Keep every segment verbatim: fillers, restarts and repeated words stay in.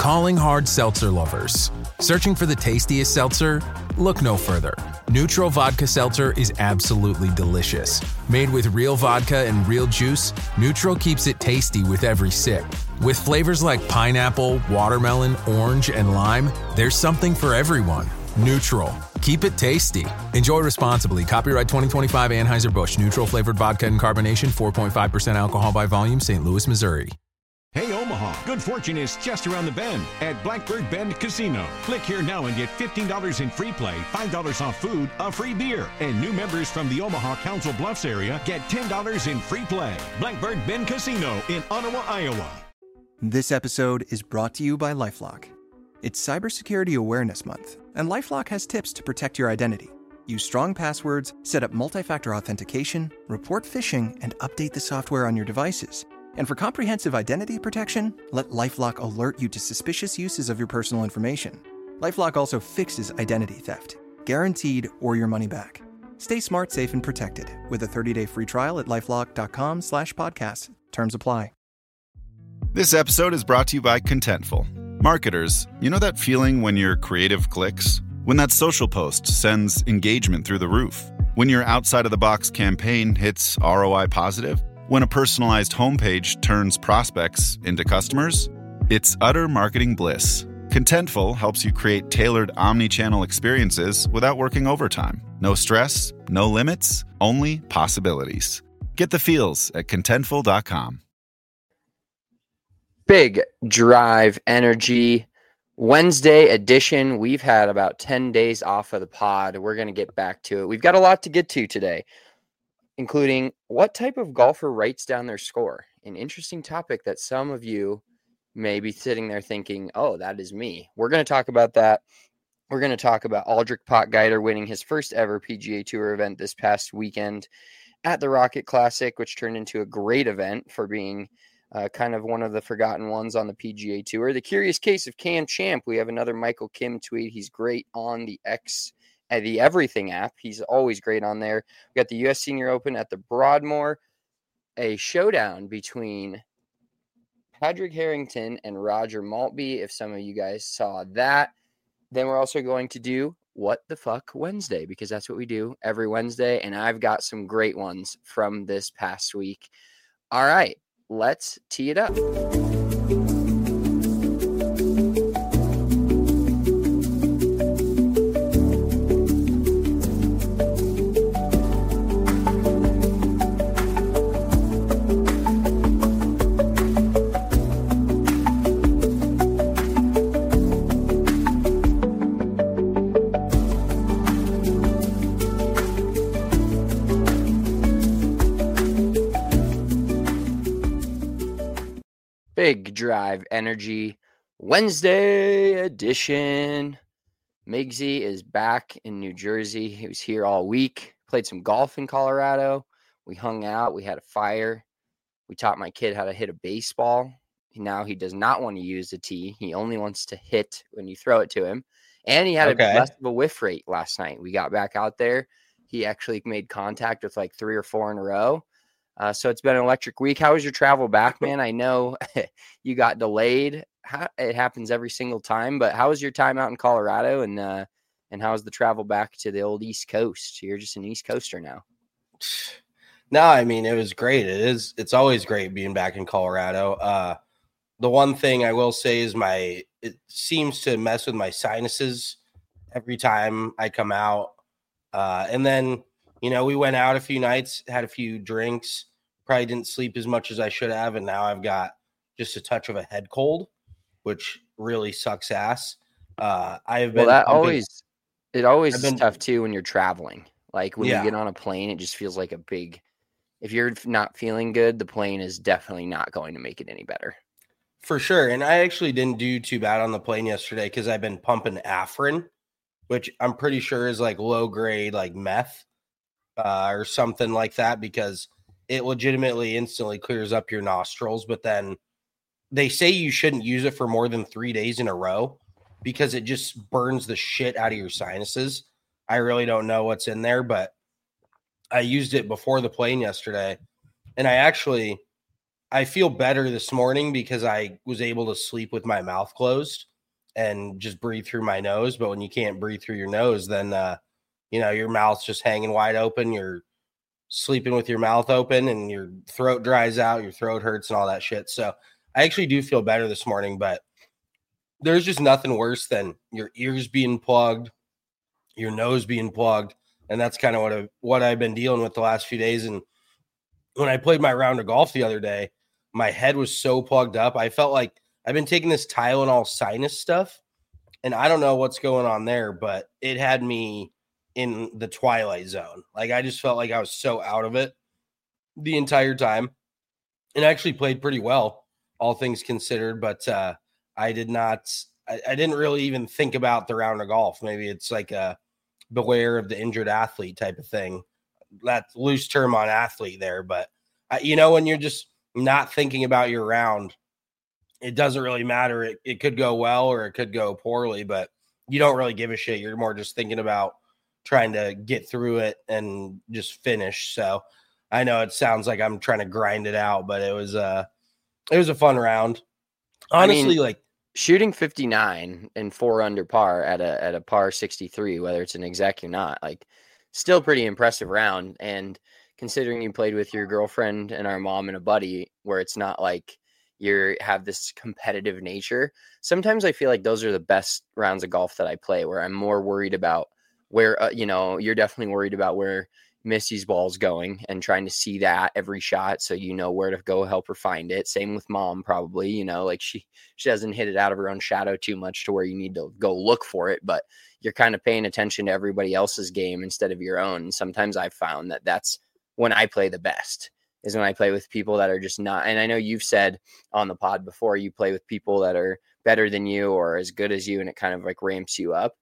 Calling hard seltzer lovers. Searching for the tastiest seltzer? Look no further. Neutral Vodka Seltzer is absolutely delicious. Made with real vodka and real juice, Neutral keeps it tasty with every sip. With flavors like pineapple, watermelon, orange, and lime, there's something for everyone. Neutral. Keep it tasty. Enjoy responsibly. Copyright twenty twenty-five Anheuser-Busch. Neutral flavored vodka and carbonation. four point five percent alcohol by volume. Saint Louis, Missouri. Hey Omaha, good fortune is just around the bend at Blackbird Bend Casino. Click here now and get fifteen dollars in free play, five dollars off food, a free beer. And new members from the Omaha Council Bluffs area get ten dollars in free play. Blackbird Bend Casino in Ottawa, Iowa. This episode is brought to you by LifeLock. It's Cybersecurity Awareness Month, and LifeLock has tips to protect your identity. Use strong passwords, set up multi-factor authentication, report phishing, and update the software on your devices. And for comprehensive identity protection, let LifeLock alert you to suspicious uses of your personal information. LifeLock also fixes identity theft, guaranteed or your money back. Stay smart, safe, and protected with a thirty-day free trial at LifeLock.com slash podcast. Terms apply. This episode is brought to you by Contentful. Marketers, you know that feeling when your creative clicks? When that social post sends engagement through the roof? When your outside-of-the-box campaign hits R O I positive? When a personalized homepage turns prospects into customers? It's utter marketing bliss. Contentful helps you create tailored omni-channel experiences without working overtime. No stress, no limits, only possibilities. Get the feels at contentful dot com. Big Drive Energy Wednesday edition. We've had about ten days off of the pod. We're going to get back to it. We've got a lot to get to today, including what type of golfer writes down their score. An interesting topic that some of you may be sitting there thinking, oh, that is me. We're going to talk about that. We're going to talk about Aldrich Potgieter winning his first ever P G A Tour event this past weekend at the Rocket Classic, which turned into a great event for being uh, kind of one of the forgotten ones on the P G A Tour. The Curious Case of Cam Champ. We have another Michael Kim tweet. He's great on the X at the Everything app. He's always great on there. We got the U S Senior Open at the Broadmoor, a showdown between Padraig Harrington and Roger Maltby, if some of you guys saw that. Then we're also going to do What the Fuck Wednesday, because that's what we do every Wednesday, and I've got some great ones from this past week. All right, let's tee it up. Big Drive Energy Wednesday edition. Migsy is back in New Jersey. He was here all week. Played some golf in Colorado. We hung out. We had a fire. We taught my kid how to hit a baseball. Now he does not want to use the tee. He only wants to hit when you throw it to him. And he had okay. a less of a whiff rate last night. We got back out there. He actually made contact with like three or four in a row. Uh, so it's been an electric week. How was your travel back, man? I know you got delayed. How, it happens every single time, but how was your time out in Colorado, and uh, and how was the travel back to the old East Coast? You're just an East Coaster now. No, I mean, it was great. It is. It's always great being back in Colorado. Uh, the one thing I will say is my it seems to mess with my sinuses every time I come out, uh, and then. You know, we went out a few nights, had a few drinks, probably didn't sleep as much as I should have, and now I've got just a touch of a head cold, which really sucks ass. Uh, I have been. Well, that pumping, always, it always I've is been, tough too when you're traveling. Like when yeah. you get on a plane, it just feels like a big. If you're not feeling good, the plane is definitely not going to make it any better. For sure, and I actually didn't do too bad on the plane yesterday because I've been pumping Afrin, which I'm pretty sure is like low grade, like meth. Uh, or something like that, because it legitimately instantly clears up your nostrils. But then they say you shouldn't use it for more than three days in a row because it just burns the shit out of your sinuses. I really don't know what's in there, but I used it before the plane yesterday. And I actually, I feel better this morning because I was able to sleep with my mouth closed and just breathe through my nose. But when you can't breathe through your nose, then, uh, you know, your mouth's just hanging wide open. You're sleeping with your mouth open and your throat dries out, your throat hurts and all that shit. So I actually do feel better this morning, but there's just nothing worse than your ears being plugged, your nose being plugged. And that's kind of what, I, what I've been dealing with the last few days. And when I played my round of golf the other day, my head was so plugged up. I felt like I've been taking this Tylenol sinus stuff, and I don't know what's going on there, but it had me in the twilight zone. Like, I just felt like I was so out of it the entire time, and I actually played pretty well, all things considered, but uh, I did not, I, I didn't really even think about the round of golf. Maybe it's like a beware of the injured athlete type of thing. That's loose term on athlete there, but uh, you know, when you're just not thinking about your round, it doesn't really matter. It, it could go well or it could go poorly, but you don't really give a shit. You're more just thinking about trying to get through it and just finish. So I know it sounds like I'm trying to grind it out, but it was uh it was a fun round. Honestly, I mean, like shooting fifty-nine and four under par at a at a par sixty-three, whether it's an exec or not, like still pretty impressive round. And considering you played with your girlfriend and our mom and a buddy, where it's not like you have this competitive nature, sometimes I feel like those are the best rounds of golf that I play, where I'm more worried about where, uh, you know, you're definitely worried about where Missy's ball's going and trying to see that every shot, so you know where to go help her find it. Same with mom, probably, you know, like she she doesn't hit it out of her own shadow too much to where you need to go look for it, but you're kind of paying attention to everybody else's game instead of your own. And sometimes I've found that that's when I play the best, is when I play with people that are just not, and I know you've said on the pod before, you play with people that are better than you or as good as you, and it kind of like ramps you up.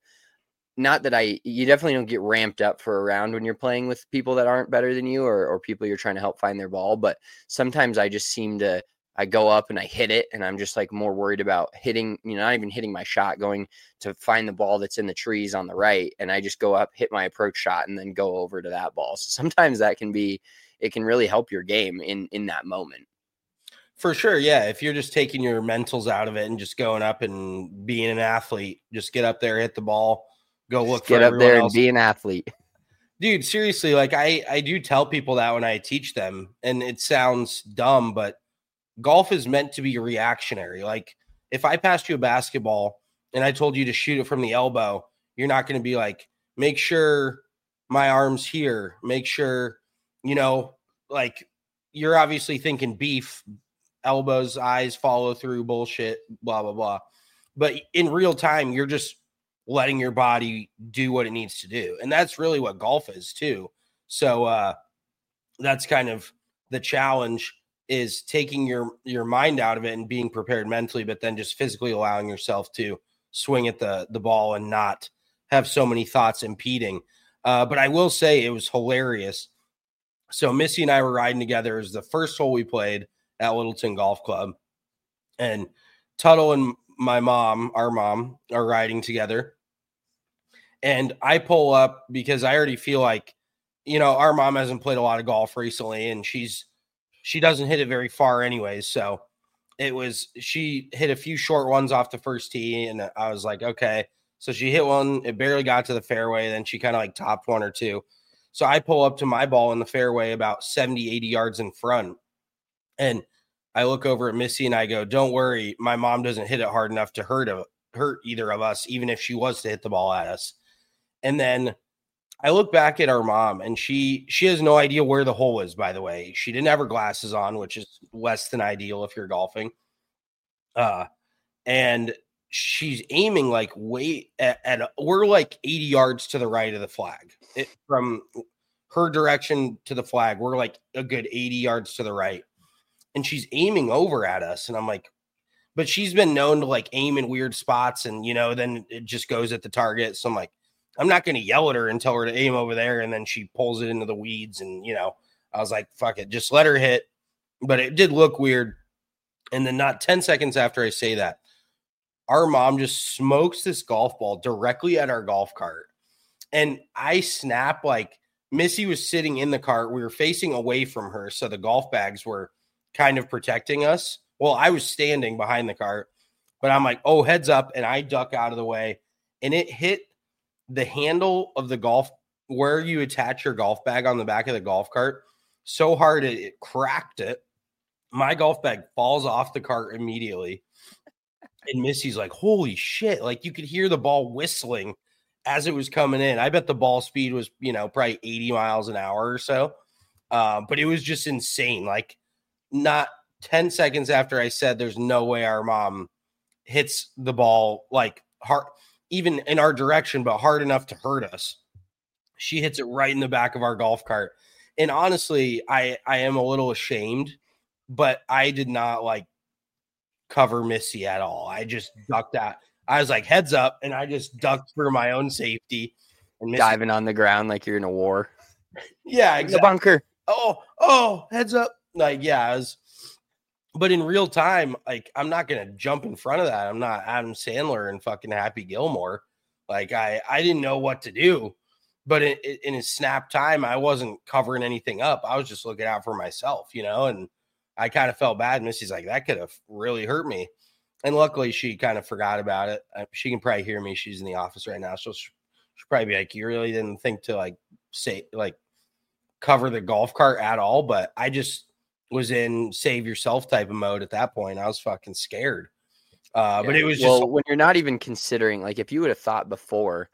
Not that I, you definitely don't get ramped up for a round when you're playing with people that aren't better than you, or, or people you're trying to help find their ball. But sometimes I just seem to, I go up and I hit it, and I'm just like more worried about hitting, you know, not even hitting my shot, going to find the ball that's in the trees on the right. And I just go up, hit my approach shot, and then go over to that ball. So sometimes that can be, it can really help your game in, in that moment. For sure. Yeah. If you're just taking your mentals out of it and just going up and being an athlete, just get up there, hit the ball, go look Get for up there else. and be an athlete. Dude, seriously, like I, I do tell people that when I teach them, and it sounds dumb, but golf is meant to be reactionary. Like if I passed you a basketball and I told you to shoot it from the elbow, you're not going to be like, make sure my arm's here. Make sure, you know, like you're obviously thinking beef, elbows, eyes, follow through, bullshit, blah, blah, blah. But in real time, you're just letting your body do what it needs to do. And that's really what golf is too. So uh, that's kind of the challenge, is taking your, your mind out of it and being prepared mentally, but then just physically allowing yourself to swing at the, the ball and not have so many thoughts impeding. Uh, but I will say it was hilarious. So Missy and I were riding together. It was the first hole we played at Littleton Golf Club, and Tuttle and my mom, our mom, are riding together. And I pull up because I already feel like, you know, our mom hasn't played a lot of golf recently, and she's, she doesn't hit it very far anyways. So it was, she hit a few short ones off the first tee, and I was like, okay. So she hit one, it barely got to the fairway. Then she kind of like topped one or two. So I pull up to my ball in the fairway about seventy, eighty yards in front. And I look over at Missy and I go, don't worry, my mom doesn't hit it hard enough to hurt, a, hurt either of us, even if she was to hit the ball at us. And then I look back at our mom, and she she has no idea where the hole is, by the way. She didn't have her glasses on, which is less than ideal if you're golfing. Uh, and she's aiming like way at, at a, we're like eighty yards to the right of the flag. It, from her direction to the flag, we're like a good eighty yards to the right. And she's aiming over at us. And I'm like, but she's been known to like aim in weird spots, and, you know, then it just goes at the target. So I'm like, I'm not going to yell at her and tell her to aim over there. And then she pulls it into the weeds. And, you know, I was like, fuck it, just let her hit. But it did look weird. And then not ten seconds after I say that, our mom just smokes this golf ball directly at our golf cart. And I snap, like Missy was sitting in the cart. We were facing away from her, so the golf bags were kind of protecting us. Well, I was standing behind the cart, but I'm like, oh, heads up. And I duck out of the way, and it hit the handle of the golf where you attach your golf bag on the back of the golf cart so hard it, it cracked it. My golf bag falls off the cart immediately. And Missy's like, holy shit. Like, you could hear the ball whistling as it was coming in. I bet the ball speed was, you know, probably eighty miles an hour or so. Uh, but it was just insane. Like, not ten seconds after I said there's no way our mom hits the ball like hard, even in our direction, but hard enough to hurt us, she hits it right in the back of our golf cart. And honestly, I, I am a little ashamed, but I did not like cover Missy at all. I just ducked out. I was like, heads up, and I just ducked for my own safety. And Missy, diving on the ground like you're in a war. Yeah, exactly. The bunker. Oh, oh, heads up. Like, yeah, I was, but in real time, like, I'm not going to jump in front of that. I'm not Adam Sandler and fucking Happy Gilmore. Like, I, I didn't know what to do, but in, in his snap time, I wasn't covering anything up. I was just looking out for myself, you know, and I kind of felt bad. Missy's like, that could have really hurt me. And luckily she kind of forgot about it. She can probably hear me. She's in the office right now. So she'll probably be like, you really didn't think to like say, like cover the golf cart at all. But I just was in save yourself type of mode at that point. I was fucking scared. Uh, yeah. But it was just well, when you're not even considering, like, if you would have thought before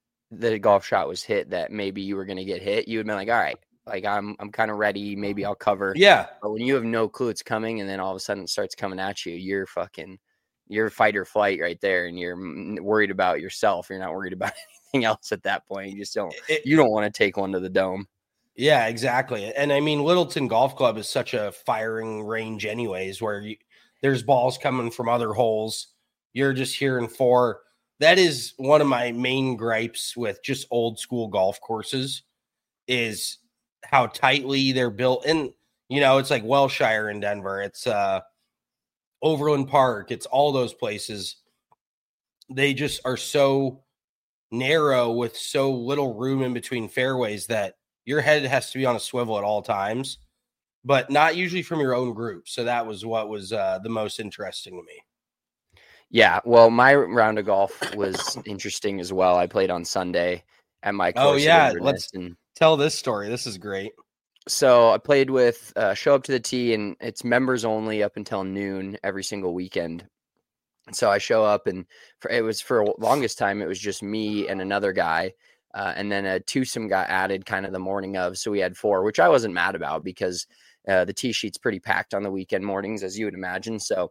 the golf shot was hit that maybe you were going to get hit, you would have been like, all right, like I'm, I'm kind of ready. Maybe I'll cover. Yeah. But when you have no clue it's coming, and then all of a sudden it starts coming at you, you're fucking, you're fight or flight right there. And you're worried about yourself. You're not worried about anything else at that point. You just don't, it, you don't want to take one to the dome. Yeah, exactly. And I mean, Littleton Golf Club is such a firing range anyways, where you, there's balls coming from other holes. You're just hearing four. That is one of my main gripes with just old school golf courses is how tightly they're built. And, you know, it's like Welshire in Denver. It's uh, Overland Park. It's all those places. They just are so narrow with so little room in between fairways that your head has to be on a swivel at all times, but not usually from your own group. So that was what was uh, the most interesting to me. Yeah, well, my round of golf was interesting as well. I played on Sunday at my course. Oh, yeah. Let's and tell this story. This is great. So I played with uh, show up to the tee, and it's members only up until noon every single weekend. So I show up, and for, it was for the longest time, it was just me and another guy. Uh, and then a twosome got added kind of the morning of. So we had four, which I wasn't mad about because uh, the tee sheet's pretty packed on the weekend mornings, as you would imagine. So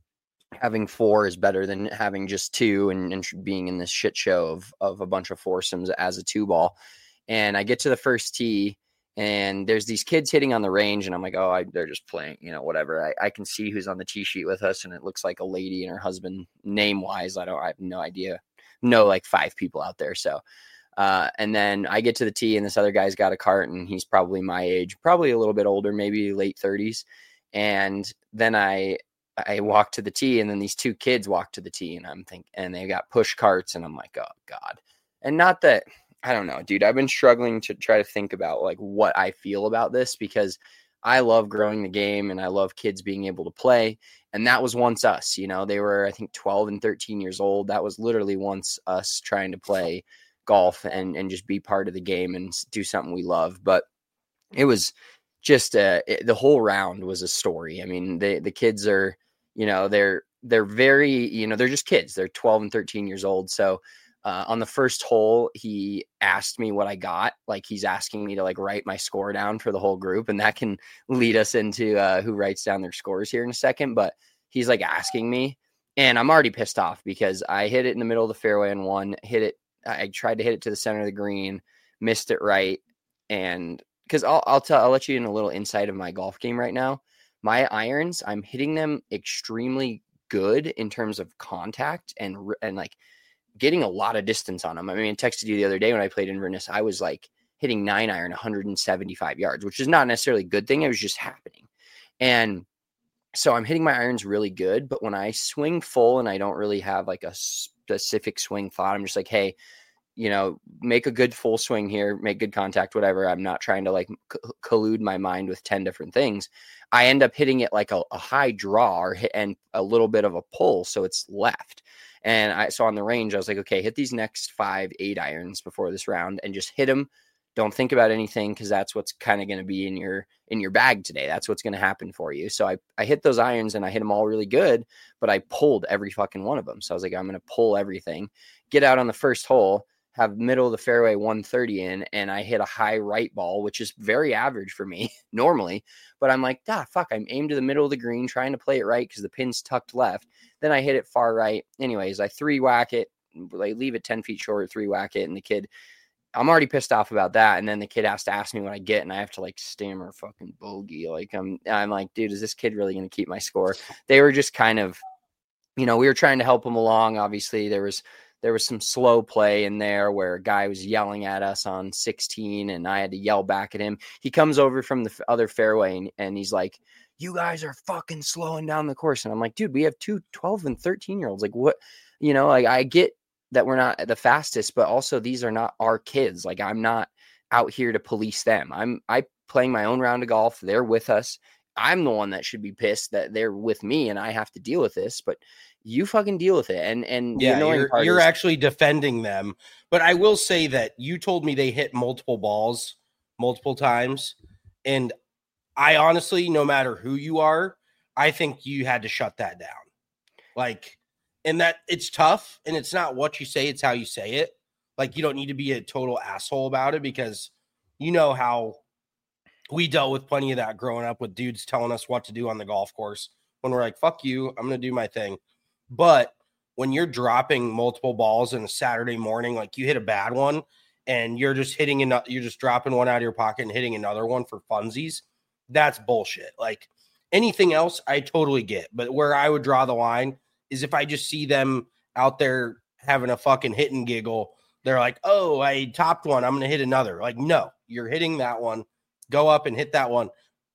having four is better than having just two and, and being in this shit show of, of a bunch of foursomes as a two ball. And I get to the first tee, and there's these kids hitting on the range, and I'm like, oh, I, they're just playing, you know, whatever. I, I can see who's on the tee sheet with us, and it looks like a lady and her husband. Name wise, I don't, I have no idea. No, like five people out there. So, uh, and then I get to the tee, and this other guy's got a cart, and he's probably my age, probably a little bit older, maybe late thirties. And then I, I walk to the tee, and then these two kids walk to the tee, and I'm thinking, and they got push carts, and I'm like, oh God. And not that, I don't know, dude, I've been struggling to try to think about like what I feel about this, because I love growing the game and I love kids being able to play. And that was once us, you know, they were, I think twelve and thirteen years old. That was literally once us trying to play golf and, and just be part of the game and do something we love. But it was just uh, it, the whole round was a story. I mean, they, the kids are, you know, they're, they're very, you know, they're just kids. They're twelve and thirteen years old. So Uh, on the first hole, he asked me what I got. Like, he's asking me to like write my score down for the whole group. And that can lead us into uh, who writes down their scores here in a second. But he's like asking me, and I'm already pissed off because I hit it in the middle of the fairway and one hit it. I tried to hit it to the center of the green, missed it right. And because I'll, I'll tell, I'll let you in a little insight of my golf game right now. My irons, I'm hitting them extremely good in terms of contact and, and like, getting a lot of distance on them. I mean, I texted you the other day when I played Inverness, I was like hitting nine iron one hundred seventy-five yards, which is not necessarily a good thing. It was just happening. And so I'm hitting my irons really good, but when I swing full and I don't really have like a specific swing thought, I'm just like, hey, you know, make a good full swing here, make good contact, whatever. I'm not trying to like c- collude my mind with ten different things. I end up hitting it like a, a high draw or hit, and a little bit of a pull. So it's left. And I saw on the range, I was like, okay, hit these next five, eight irons before this round and just hit them. Don't think about anything, because that's what's kind of going to be in your in your bag today. That's what's going to happen for you. So I, I hit those irons and I hit them all really good, but I pulled every fucking one of them. So I was like, I'm going to pull everything, get out on the first hole, have middle of the fairway one thirty in, and I hit a high right ball, which is very average for me normally. But I'm like, ah, fuck, I'm aimed to the middle of the green, trying to play it right because the pin's tucked left. Then I hit it far right. Anyways, I three whack it, like leave it ten feet short, three whack it, and the kid, I'm already pissed off about that. And then the kid has to ask me what I get, and I have to like stammer fucking bogey. Like I'm, I'm like, dude, is this kid really going to keep my score? They were just kind of, you know, we were trying to help him along. Obviously, there was there was some slow play in there where a guy was yelling at us on sixteen, and I had to yell back at him. He comes over from the other fairway, and, and he's like, "You guys are fucking slowing down the course." And I'm like, dude, we have two twelve and thirteen year olds. Like, what, you know, like I get that we're not the fastest, but also these are not our kids. Like, I'm not out here to police them. I'm I playing my own round of golf. They're with us. I'm the one that should be pissed that they're with me and I have to deal with this, but you fucking deal with it. And, and yeah, you're, you're is- actually defending them. But I will say that you told me they hit multiple balls multiple times. And I honestly, no matter who you are, I think you had to shut that down. Like, and that it's tough, and it's not what you say, it's how you say it. Like, you don't need to be a total asshole about it, because you know how we dealt with plenty of that growing up with dudes telling us what to do on the golf course when we're like, fuck you, I'm going to do my thing. But when you're dropping multiple balls in a Saturday morning, like you hit a bad one and you're just hitting another, you're just dropping one out of your pocket and hitting another one for funsies, that's bullshit. Like, anything else, I totally get. But where I would draw the line is if I just see them out there having a fucking hit and giggle, they're like, oh, I topped one, I'm going to hit another. Like, no, you're hitting that one. Go up and hit that one.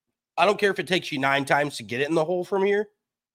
I don't care if it takes you nine times to get it in the hole from here,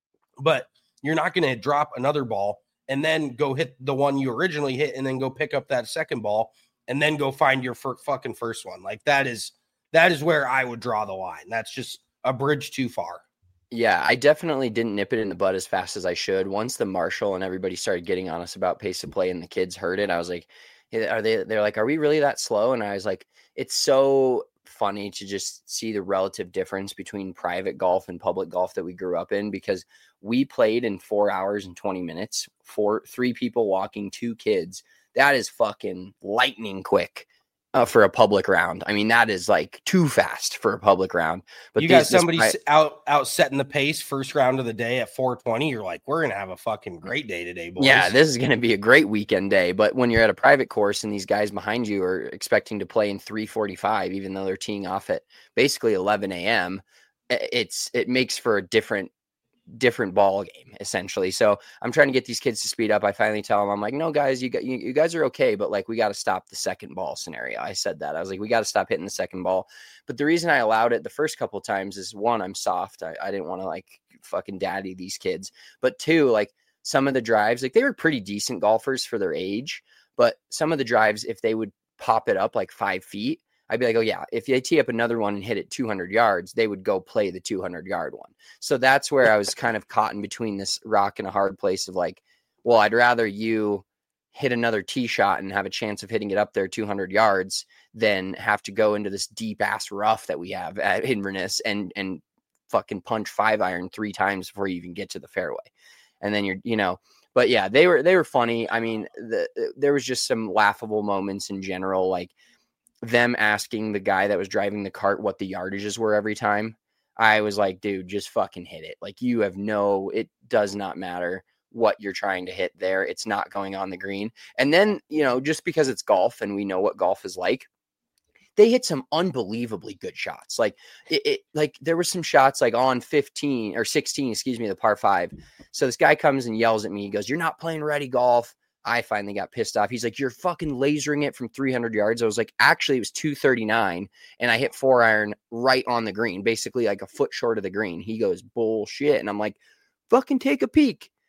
but you're not going to drop another ball and then go hit the one you originally hit and then go pick up that second ball and then go find your f- fucking first one. Like, that is, that is where I would draw the line. That's just a bridge too far. Yeah, I definitely didn't nip it in the bud as fast as I should. Once the marshal and everybody started getting on us about pace of play and the kids heard it, I was like, are they, they're like, are we really that slow? And I was like, it's so funny to just see the relative difference between private golf and public golf that we grew up in, because we played in four hours and twenty minutes, four, three people walking, two kids. That is fucking lightning quick uh, for a public round. I mean, that is like too fast for a public round. But you these, got somebody this, out, out setting the pace first round of the day at four twenty. You're like, we're going to have a fucking great day today, boys. Yeah, this is going to be a great weekend day. But when you're at a private course and these guys behind you are expecting to play in three forty-five, even though they're teeing off at basically eleven a.m., it's it makes for a different different ball game, essentially. So I'm trying to get these kids to speed up. I finally tell them, I'm like, no, guys, you got you, you guys are okay, but like, we got to stop the second ball scenario. I said that. I was like, we got to stop hitting the second ball. But the reason I allowed it the first couple of times is, one, I'm soft. I, I didn't want to like fucking daddy these kids. But two, like, some of the drives, like, they were pretty decent golfers for their age, but some of the drives, if they would pop it up like five feet, I'd be like, oh yeah, if they tee up another one and hit it two hundred yards, they would go play the two hundred yard one. So that's where I was kind of caught in between this rock and a hard place of like, well, I'd rather you hit another tee shot and have a chance of hitting it up there two hundred yards than have to go into this deep ass rough that we have at Inverness and, and fucking punch five iron three times before you even get to the fairway. And then you're, you know, but yeah, they were, they were funny. I mean, the, there was just some laughable moments in general, like them asking the guy that was driving the cart what the yardages were every time. I was like, dude, just fucking hit it. Like, you have no, it does not matter what you're trying to hit there. It's not going on the green. And then, you know, just because it's golf and we know what golf is like, they hit some unbelievably good shots. Like it, it like there were some shots like on fifteen or sixteen, excuse me, the par five. So this guy comes and yells at me. He goes, "You're not playing ready golf." I finally got pissed off. He's like, "You're fucking lasering it from three hundred yards." I was like, actually, it was two thirty-nine, and I hit four iron right on the green, basically like a foot short of the green. He goes, "Bullshit." And I'm like, fucking take a peek.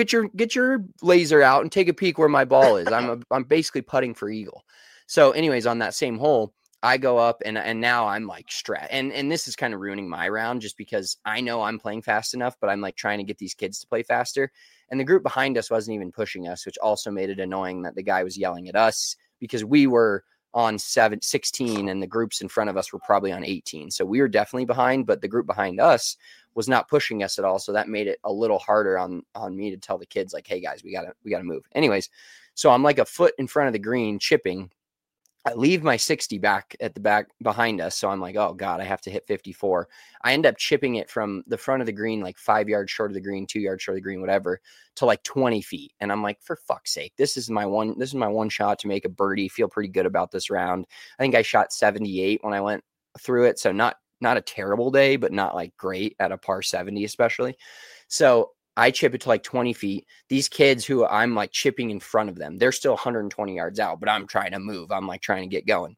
get your get your laser out and take a peek where my ball is. I'm a, I'm basically putting for eagle. So anyways, on that same hole, I go up and and now I'm like stressed. And and this is kind of ruining my round just because I know I'm playing fast enough, but I'm like trying to get these kids to play faster. And the group behind us wasn't even pushing us, which also made it annoying that the guy was yelling at us because we were on seven, sixteen and the groups in front of us were probably on eighteen. So we were definitely behind, but the group behind us was not pushing us at all. So that made it a little harder on, on me to tell the kids like, hey guys, we gotta, we gotta move. Anyways, so I'm like a foot in front of the green chipping. I leave my sixty back at the back behind us. So I'm like, oh God, I have to hit fifty-four. I end up chipping it from the front of the green, like five yards short of the green, two yards short of the green, whatever, to like twenty feet. And I'm like, for fuck's sake, this is my one, this is my one shot to make a birdie. Feel pretty good about this round. I think I shot seventy-eight when I went through it. So not, not a terrible day, but not like great at a par seventy, especially. So I chip it to like twenty feet. These kids who I'm like chipping in front of them, they're still one hundred twenty yards out, but I'm trying to move. I'm like trying to get going.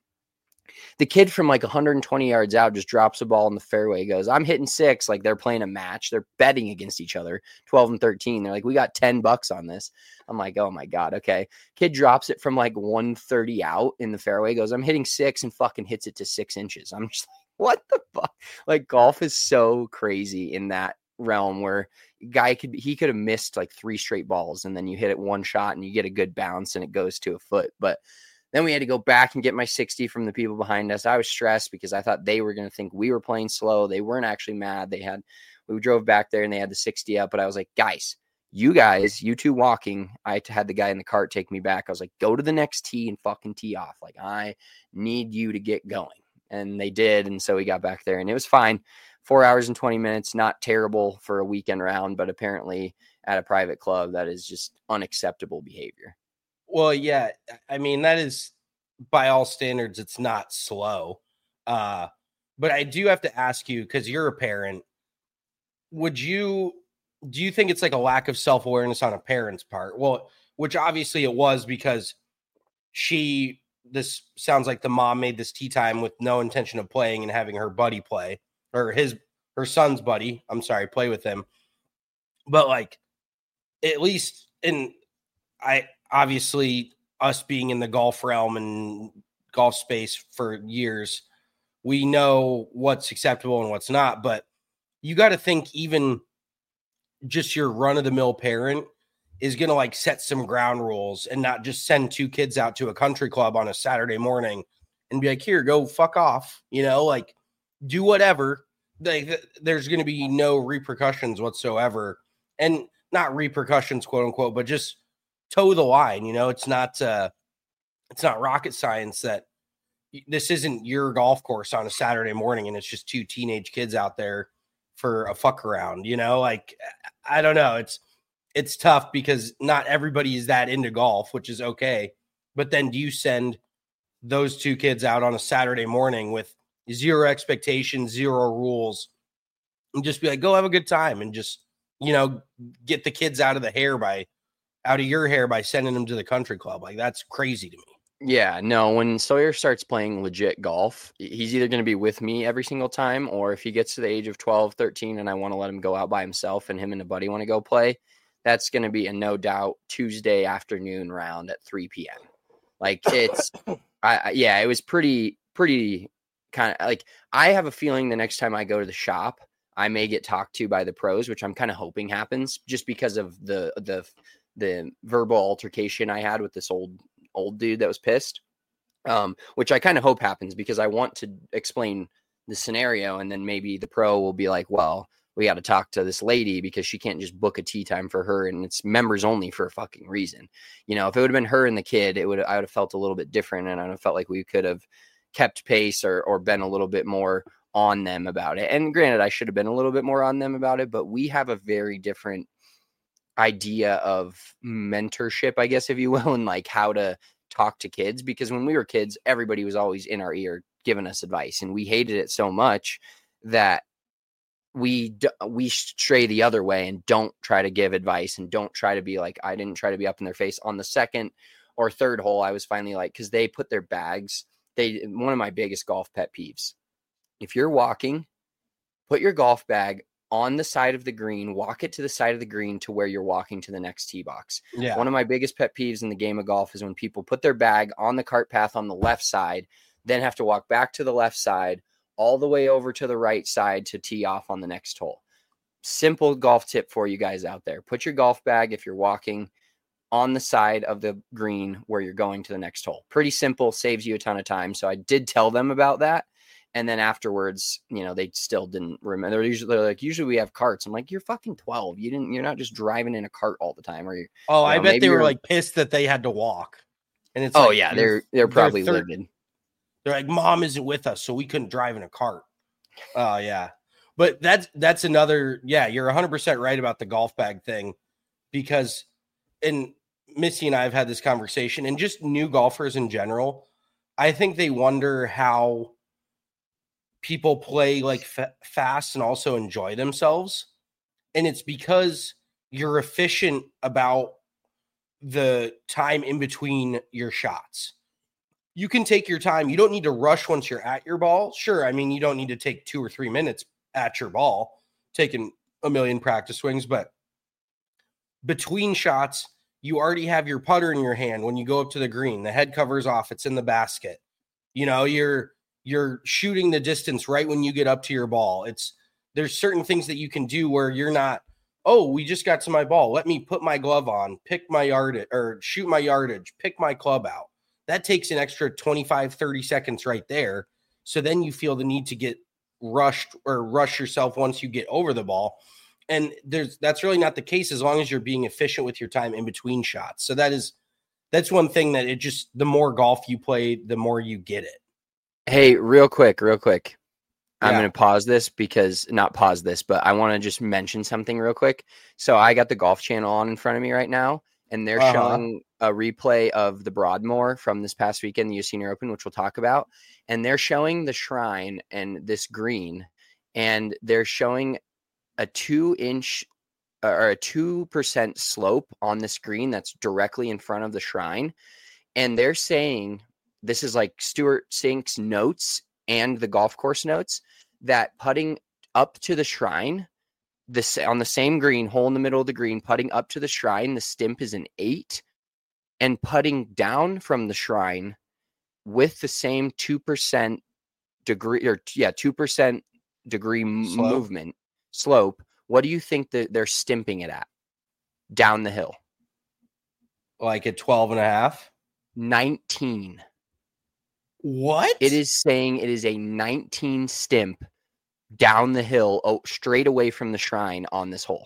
The kid from like one hundred twenty yards out just drops a ball in the fairway, goes, I'm hitting six. Like they're playing a match. They're betting against each other, twelve and thirteen. They're like, we got ten bucks on this. I'm like, oh my God. Okay. Kid drops it from like one thirty out in the fairway, goes, I'm hitting six, and fucking hits it to six inches. I'm just like, what the fuck? Like golf is so crazy in that realm where guy could he could have missed like three straight balls and then you hit it one shot and you get a good bounce and it goes to a foot. But then we had to go back and get my sixty from the people behind us. I was stressed because I thought they were going to think we were playing slow. They weren't actually mad. They had we drove back there and they had the sixty up, but I was like, guys, you guys, you two walking. I had the guy in the cart take me back. I was like, go to the next tee and fucking tee off. Like, I need you to get going. And they did. And so we got back there and it was fine. Four hours and twenty minutes, not terrible for a weekend round, but apparently at a private club, that is just unacceptable behavior. Well, yeah, I mean, that is by all standards, it's not slow. Uh, but I do have to ask you, because you're a parent, would you, do you think it's like a lack of self-awareness on a parent's part? Well, which obviously it was, because she, this sounds like the mom made this tee time with no intention of playing and having her buddy play. Or his, her son's buddy, I'm sorry, play with him. But like, at least in, I obviously us being in the golf realm and golf space for years, we know what's acceptable and what's not. But you got to think even just your run of the mill parent is going to like set some ground rules and not just send two kids out to a country club on a Saturday morning and be like, here, go fuck off. You know, like, do whatever. Like, there's going to be no repercussions whatsoever, and not repercussions, quote unquote, but just toe the line. You know, it's not, uh, it's not rocket science that this isn't your golf course on a Saturday morning and it's just two teenage kids out there for a fuck around. You know, like, I don't know. It's, it's tough because not everybody is that into golf, which is okay. But then do you send those two kids out on a Saturday morning with zero expectations, zero rules, and just be like, go have a good time and just, you know, get the kids out of the hair by out of your hair by sending them to the country club? Like, that's crazy to me. Yeah, no, when Sawyer starts playing legit golf, he's either going to be with me every single time, or if he gets to the age of twelve, thirteen, and I want to let him go out by himself and him and a buddy want to go play, that's going to be a no doubt Tuesday afternoon round at three p.m. Like, it's, I, yeah, it was pretty, pretty kind of like, I have a feeling the next time I go to the shop, I may get talked to by the pros, which I'm kind of hoping happens just because of the, the, the verbal altercation I had with this old, old dude that was pissed, um, which I kind of hope happens because I want to explain the scenario. And then maybe the pro will be like, well, we got to talk to this lady because she can't just book a tee time for her and it's members only for a fucking reason. You know, if it would have been her and the kid, it would, I would have felt a little bit different. And I would have felt like we could have kept pace or, or been a little bit more on them about it. And granted, I should have been a little bit more on them about it, but we have a very different idea of mentorship, I guess, if you will, and like how to talk to kids, because when we were kids, everybody was always in our ear giving us advice, and we hated it so much that we we stray the other way and don't try to give advice and don't try to be like, I didn't try to be up in their face. On the second or third hole, I was finally like, because they put their bags, they one of my biggest golf pet peeves, if you're walking, put your golf bag on the side of the green, walk it to the side of the green to where you're walking to the next tee box. Yeah. One of my biggest pet peeves in the game of golf is when people put their bag on the cart path on the left side, then have to walk back to the left side, all the way over to the right side to tee off on the next hole. Simple golf tip for you guys out there. Put your golf bag, if you're walking, on the side of the green where you're going to the next hole. Pretty simple, saves you a ton of time. So I did tell them about that. And then afterwards, you know, they still didn't remember. They're usually they're like, usually we have carts. I'm like, you're fucking twelve. You didn't, you're not just driving in a cart all the time. Or you Oh, you I know, bet they were you're- like pissed that they had to walk. And it's oh like, yeah, you're- they're they're probably third- livid. They're like, mom isn't with us, so we couldn't drive in a cart. Oh yeah. But that's that's another, yeah, you're one hundred percent right about the golf bag thing, because, and Missy and I have had this conversation, and just new golfers in general, I think they wonder how people play like fa- fast and also enjoy themselves. And it's because you're efficient about the time in between your shots. You can take your time. You don't need to rush once you're at your ball. Sure. I mean, you don't need to take two or three minutes at your ball, taking a million practice swings, but between shots, you already have your putter in your hand. When you go up to the green, the head cover's off, it's in the basket. You know, you're, you're shooting the distance right when you get up to your ball. It's, there's certain things that you can do where you're not, oh, we just got to my ball. Let me put my glove on, pick my yardage or shoot my yardage, pick my club out. That takes an extra twenty-five, thirty seconds right there. So then you feel the need to get rushed or rush yourself once you get over the ball. And there's, that's really not the case as long as you're being efficient with your time in between shots. So that is, that's one thing that it just, the more golf you play, the more you get it. Hey, real quick, real quick. I'm Yeah. going to pause this because not pause this, but I want to just mention something real quick. So I got the Golf Channel on in front of me right now, and they're Uh-huh. showing a replay of the Broadmoor from this past weekend, the U S Senior Open, which we'll talk about. And they're showing the Shrine and this green, and they're showing a two inch or a two percent slope on this green that's directly in front of the Shrine. And they're saying, this is like Stuart Sink's notes and the golf course notes, that putting up to the Shrine, this on the same green, hole in the middle of the green, putting up to the Shrine, the stimp is an eight, and putting down from the Shrine with the same two percent degree, or yeah, two percent degree m- Slope. movement slope. What do you think that they're stimping it at down the hill? Like at twelve and a half. nineteen. What? It is saying it is a nineteen stimp down the hill, oh, straight away from the Shrine on this hole.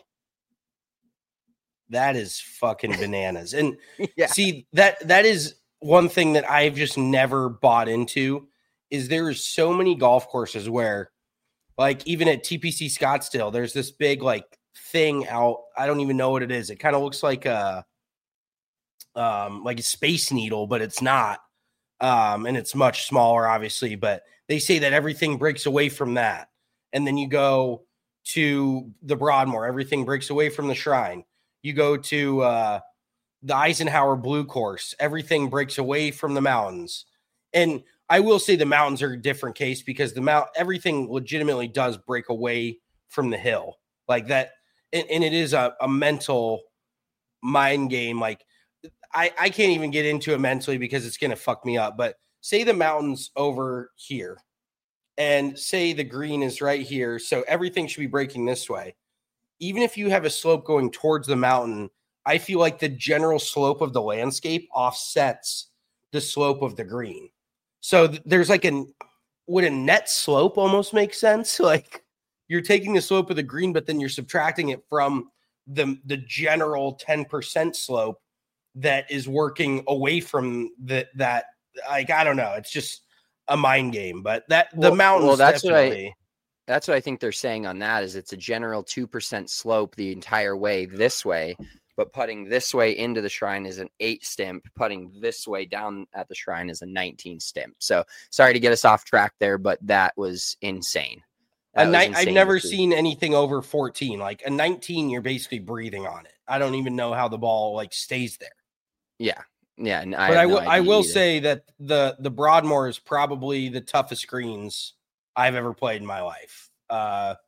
That is fucking bananas. And Yeah. see, that that is one thing that I've just never bought into, is there is so many golf courses where, like, even at T P C Scottsdale, there's this big like thing out. I don't even know what it is. It kind of looks like a um like a Space Needle, but it's not. Um, and it's much smaller, obviously, but they say that everything breaks away from that. And then you go to the Broadmoor, everything breaks away from the Shrine. You go to uh, the Eisenhower Blue Course, everything breaks away from the mountains. And I will say the mountains are a different case, because the mount, everything legitimately does break away from the hill like that. And, and it is a, a mental mind game. Like, I, I can't even get into it mentally because it's going to fuck me up. But say the mountain's over here and say the green is right here. So everything should be breaking this way. Even if you have a slope going towards the mountain, I feel like the general slope of the landscape offsets the slope of the green. So th- there's like an, would a net slope almost make sense? Like, you're taking the slope of the green, but then you're subtracting it from the, the general ten percent slope that is working away from the, that, like, I don't know. It's just a mind game, but that the Well- mountains, well, that's what I- definitely. That's what I think they're saying on that, is it's a general two percent slope the entire way this way, but putting this way into the Shrine is an eight stimp. Putting this way down at the Shrine is a nineteen stimp. So sorry to get us off track there, but that was insane. A That was ni- I've insane never to see. seen anything over fourteen. Like a nineteen, you're basically breathing on it. I don't even know how the ball like stays there. Yeah. Yeah. And I But have I no will I idea will either. say that the the Broadmoor is probably the toughest greens I've ever played in my life. Uh,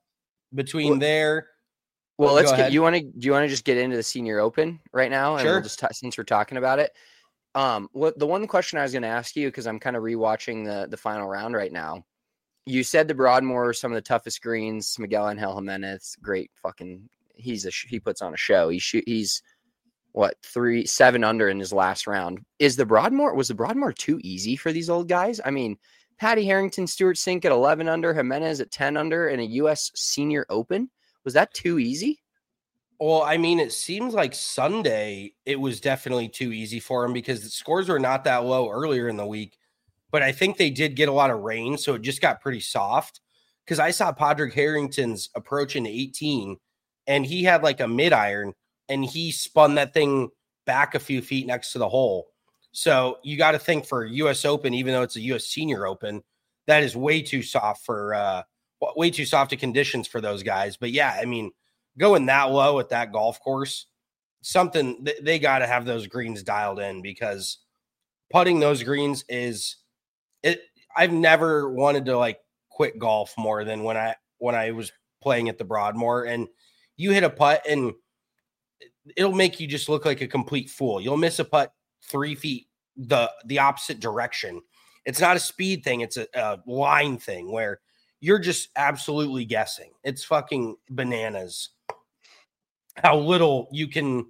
between well, there. Well, let's get, you want to, do you want to just get into the Senior Open right now? And sure. We'll just t- since we're talking about it. Um, what the one question I was going to ask you, cause I'm kind of rewatching the, the final round right now. You said the Broadmoor, some of the toughest greens, Miguel Angel Jimenez, great fucking, he's a, he puts on a show. He shoot, he's what, three, seven under in his last round. Is the Broadmoor, was the Broadmoor too easy for these old guys? I mean, Patty Harrington, Stuart Sink at eleven under, Jimenez at ten under in a U S Senior Open. Was that too easy? Well, I mean, it seems like Sunday, it was definitely too easy for him because the scores were not that low earlier in the week. But I think they did get a lot of rain, so it just got pretty soft. Because I saw Padraig Harrington's approach in eighteen, and he had like a mid iron, and he spun that thing back a few feet next to the hole. So you got to think for U S Open, even though it's a U S Senior Open, that is way too soft for uh, way too soft of conditions for those guys. But yeah, I mean, going that low at that golf course, something th- they got to have those greens dialed in because putting those greens is. It. I've never wanted to like quit golf more than when I when I was playing at the Broadmoor, and you hit a putt and it'll make you just look like a complete fool. You'll miss a putt three feet the the opposite direction. It's not a speed thing; it's a, a line thing where you're just absolutely guessing. It's fucking bananas how little you can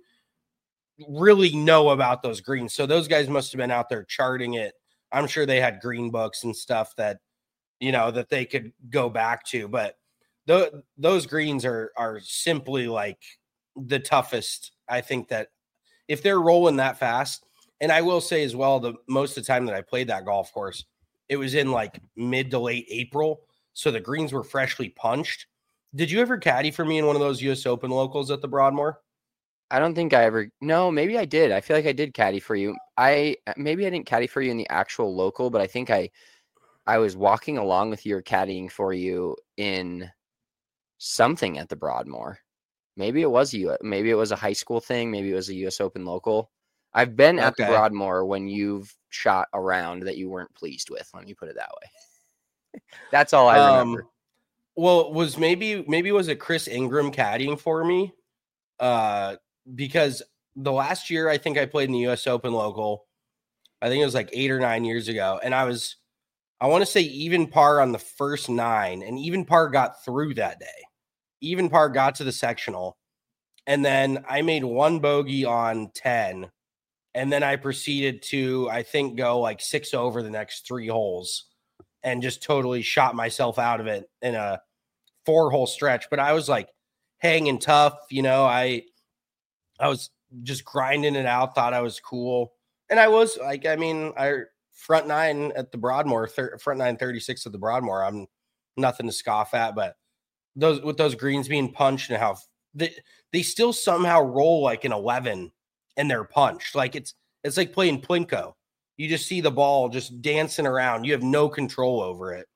really know about those greens. So those guys must have been out there charting it. I'm sure they had green books and stuff that, you know, that they could go back to, but th- those greens are, are simply like the toughest. I think that if they're rolling that fast, and I will say as well, the most of the time that I played that golf course, it was in like mid to late April. So the greens were freshly punched. Did you ever caddy for me in one of those U S Open locals at the Broadmoor? I don't think I ever, no, maybe I did. I feel like I did caddy for you. I, maybe I didn't caddy for you in the actual local, but I think I, I was walking along with you or caddying for you in something at the Broadmoor. Maybe it was you. Maybe it was a high school thing. Maybe it was a U S Open local. I've been at okay. the Broadmoor when you've shot a round that you weren't pleased with. Let me put it that way. That's all I remember. Um, well, was maybe, maybe was it Chris Ingram caddying for me? Uh, because the last year I think I played in the U S Open local, I think it was like eight or nine years ago. And I was, I want to say even par on the first nine, and even par got through that day. Even par got to the sectional. And then I made one bogey on ten. And then I proceeded to, I think, go like six over the next three holes and just totally shot myself out of it in a four hole stretch. But I was like hanging tough. You know, I, I was just grinding it out, thought I was cool. And I was like, I mean, I front nine at the Broadmoor, thir- front nine thirty-six at the Broadmoor. I'm nothing to scoff at, but those with those greens being punched and how they, they still somehow roll like an eleven and they're punched. Like it's, it's like playing Plinko. You just see the ball just dancing around. You have no control over it.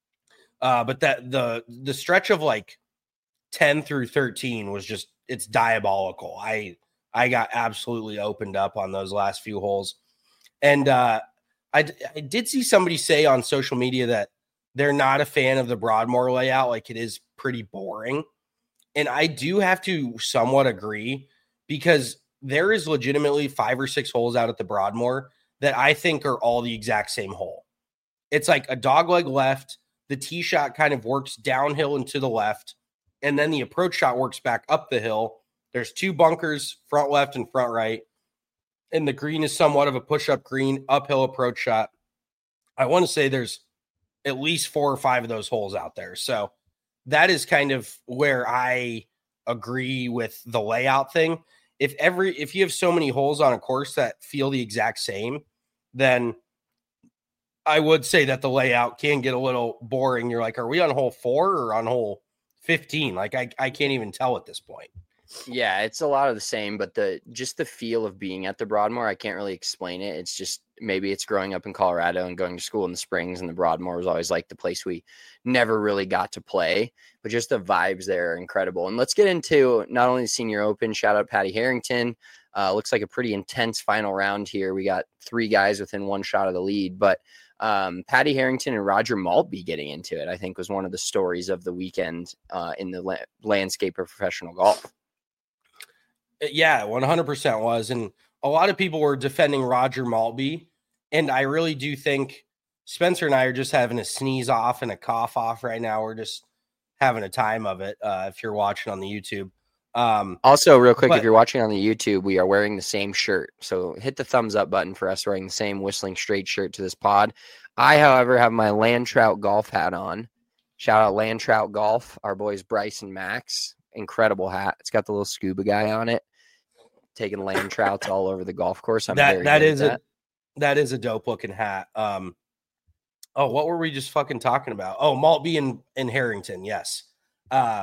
Uh, but that the, the stretch of like ten through thirteen was just, it's diabolical. I, I got absolutely opened up on those last few holes. And uh, I, I did see somebody say on social media that they're not a fan of the Broadmoor layout. Like it is pretty boring. And I do have to somewhat agree because there is legitimately five or six holes out at the Broadmoor that I think are all the exact same hole. It's like a dogleg left. The tee shot kind of works downhill and to the left. And then the approach shot works back up the hill. There's two bunkers, front left and front right. And the green is somewhat of a push-up green, uphill approach shot. I want to say there's at least four or five of those holes out there. So that is kind of where I agree with the layout thing. If every if you have so many holes on a course that feel the exact same, then I would say that the layout can get a little boring. You're like, are we on hole four or on hole fifteen? Like I, I can't even tell at this point. Yeah, it's a lot of the same, but the just the feel of being at the Broadmoor, I can't really explain it. It's just maybe it's growing up in Colorado and going to school in the Springs, and the Broadmoor was always like the place we never really got to play, but just the vibes there are incredible. And let's get into not only the Senior Open, shout out Patty Harrington. Uh, looks like a pretty intense final round here. We got three guys within one shot of the lead, but Um, Patty Harrington and Roger Maltby getting into it, I think, was one of the stories of the weekend uh, in the la- landscape of professional golf. Yeah, one hundred percent was. And a lot of people were defending Roger Maltby. And I really do think Spencer and I are just having a sneeze off and a cough off right now. We're just having a time of it uh, if you're watching on the YouTube. Um, also, real quick, but, if you're watching on the YouTube, we are wearing the same shirt. So hit the thumbs up button for us wearing the same Whistling Straight shirt to this pod. I, however, have my Land Trout golf hat on. Shout out Land Trout Golf, our boys Bryce and Max. Incredible hat. It's got the little scuba guy on it, taking land trouts all over the golf course. I'm that very that good is at a that. that is a dope looking hat. Um, oh, what were we just fucking talking about? Oh, Maltby and, and Harrington. Yes. Uh,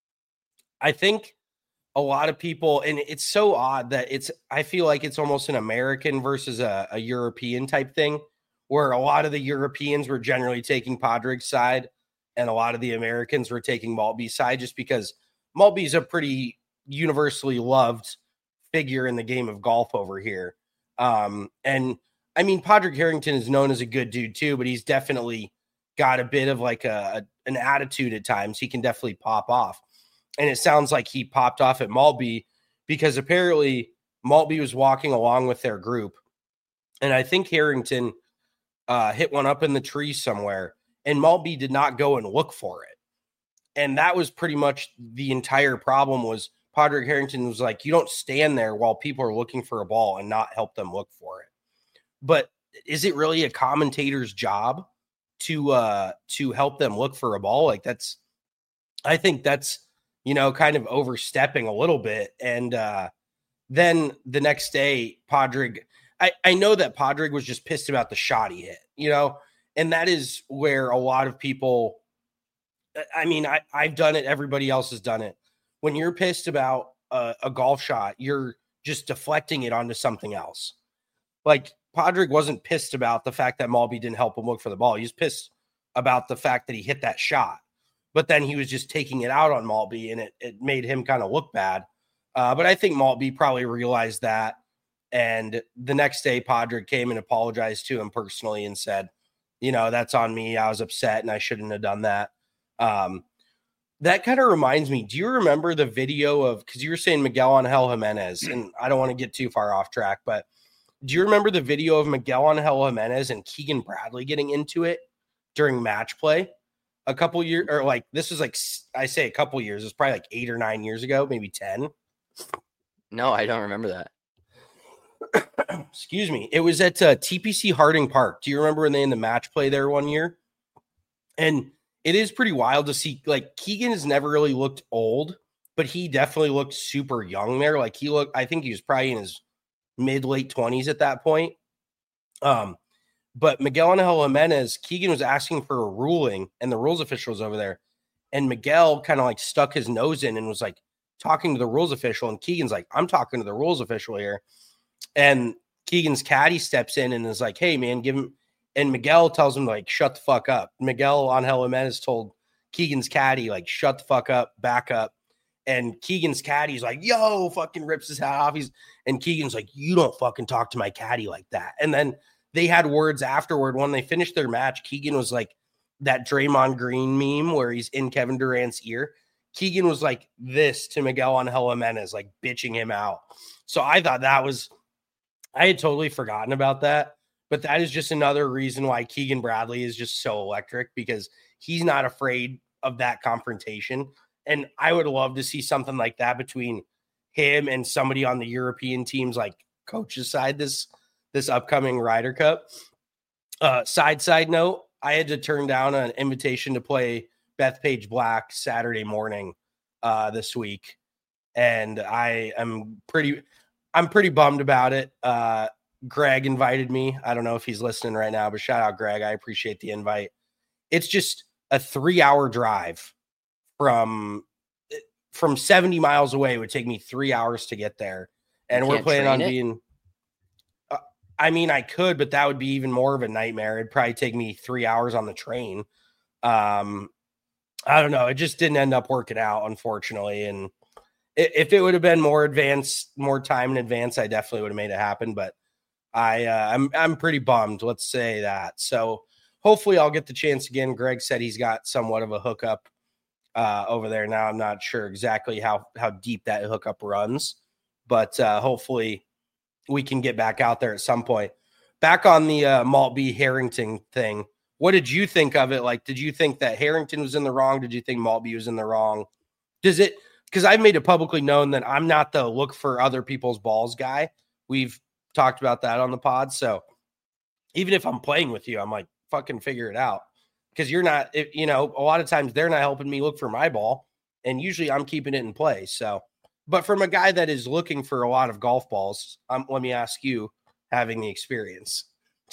I think a lot of people, and it's so odd that it's, I feel like it's almost an American versus a, a European type thing, where a lot of the Europeans were generally taking Padraig's side and a lot of the Americans were taking Maltby's side, just because Maltby's a pretty universally loved figure in the game of golf over here. Um, and I mean, Padraig Harrington is known as a good dude too, but he's definitely got a bit of like a, a an attitude at times. He can definitely pop off. And it sounds like he popped off at Maltby because apparently Maltby was walking along with their group. And I think Harrington uh, hit one up in the tree somewhere, and Maltby did not go and look for it. And that was pretty much the entire problem. Was Padraig Harrington was like, you don't stand there while people are looking for a ball and not help them look for it. But is it really a commentator's job to uh, to help them look for a ball? Like that's, I think that's, you know, kind of overstepping a little bit. And uh, then the next day, Padraig, I, I know that Padraig was just pissed about the shot he hit, you know, and that is where a lot of people, I mean, I, I've done it. Everybody else has done it. When you're pissed about a, a golf shot, you're just deflecting it onto something else. Like Padraig wasn't pissed about the fact that Maltby didn't help him look for the ball. He was pissed about the fact that he hit that shot. But then he was just taking it out on Maltby, and it, it made him kind of look bad. Uh, but I think Maltby probably realized that. And the next day, Padraig came and apologized to him personally and said, you know, that's on me. I was upset and I shouldn't have done that. Um, that kind of reminds me, do you remember the video of, because you were saying Miguel Angel Jimenez, and I don't want to get too far off track, but do you remember the video of Miguel Angel Jimenez and Keegan Bradley getting into it during match play? A couple years, or like this was like, I say a couple years, it's probably like eight or nine years ago, maybe ten. No, I don't remember that. Excuse me. It was at uh, T P C Harding Park. Do you remember when they in the match play there one year? And it is pretty wild to see, like, Keegan has never really looked old, but he definitely looked super young there. Like he looked, I think he was probably in his mid late twenties at that point. Um, But Miguel Angel Jimenez, Keegan was asking for a ruling, and the rules official was over there. And Miguel kind of like stuck his nose in and was like talking to the rules official. And Keegan's like, I'm talking to the rules official here. And Keegan's caddy steps in and is like, hey, man, give him. And Miguel tells him, like, shut the fuck up. Miguel Angel Jimenez told Keegan's caddy, like, shut the fuck up, back up. And Keegan's caddy's like, yo, fucking rips his hat off. He's and Keegan's like, you don't fucking talk to my caddy like that. And then they had words afterward. When they finished their match, Keegan was like that Draymond Green meme where he's in Kevin Durant's ear. Keegan was like this to Miguel Angel Jimenez, like bitching him out. So I thought that was, I had totally forgotten about that. But that is just another reason why Keegan Bradley is just so electric, because he's not afraid of that confrontation. And I would love to see something like that between him and somebody on the European teams, like coach's side this this upcoming Ryder Cup. Uh, side, side note, I had to turn down an invitation to play Bethpage Black Saturday morning uh, this week. And I am pretty, I'm pretty bummed about it. Uh, Greg invited me. I don't know if he's listening right now, but shout out Greg. I appreciate the invite. It's just a three hour drive from, from seventy miles away. It would take me three hours to get there. And we're planning on it? being, I mean, I could, but that would be even more of a nightmare. It'd probably take me three hours on the train. Um, I don't know. It just didn't end up working out, unfortunately. And if it would have been more advanced, more time in advance, I definitely would have made it happen. But I uh, I'm I'm pretty bummed. Let's say that. So hopefully I'll get the chance again. Greg said he's got somewhat of a hookup uh, over there now. I'm not sure exactly how how deep that hookup runs, but uh, hopefully we can get back out there at some point. Back on the uh, Maltby Harrington thing. What did you think of it? Like, did you think that Harrington was in the wrong? Did you think Maltby was in the wrong? Does it? Because I've made it publicly known that I'm not the look for other people's balls guy. We've talked about that on the pod. So even if I'm playing with you, I'm like, fucking figure it out. Because you're not, it, you know, a lot of times they're not helping me look for my ball. And usually I'm keeping it in play. So, but from a guy that is looking for a lot of golf balls, um, let me ask you, having the experience.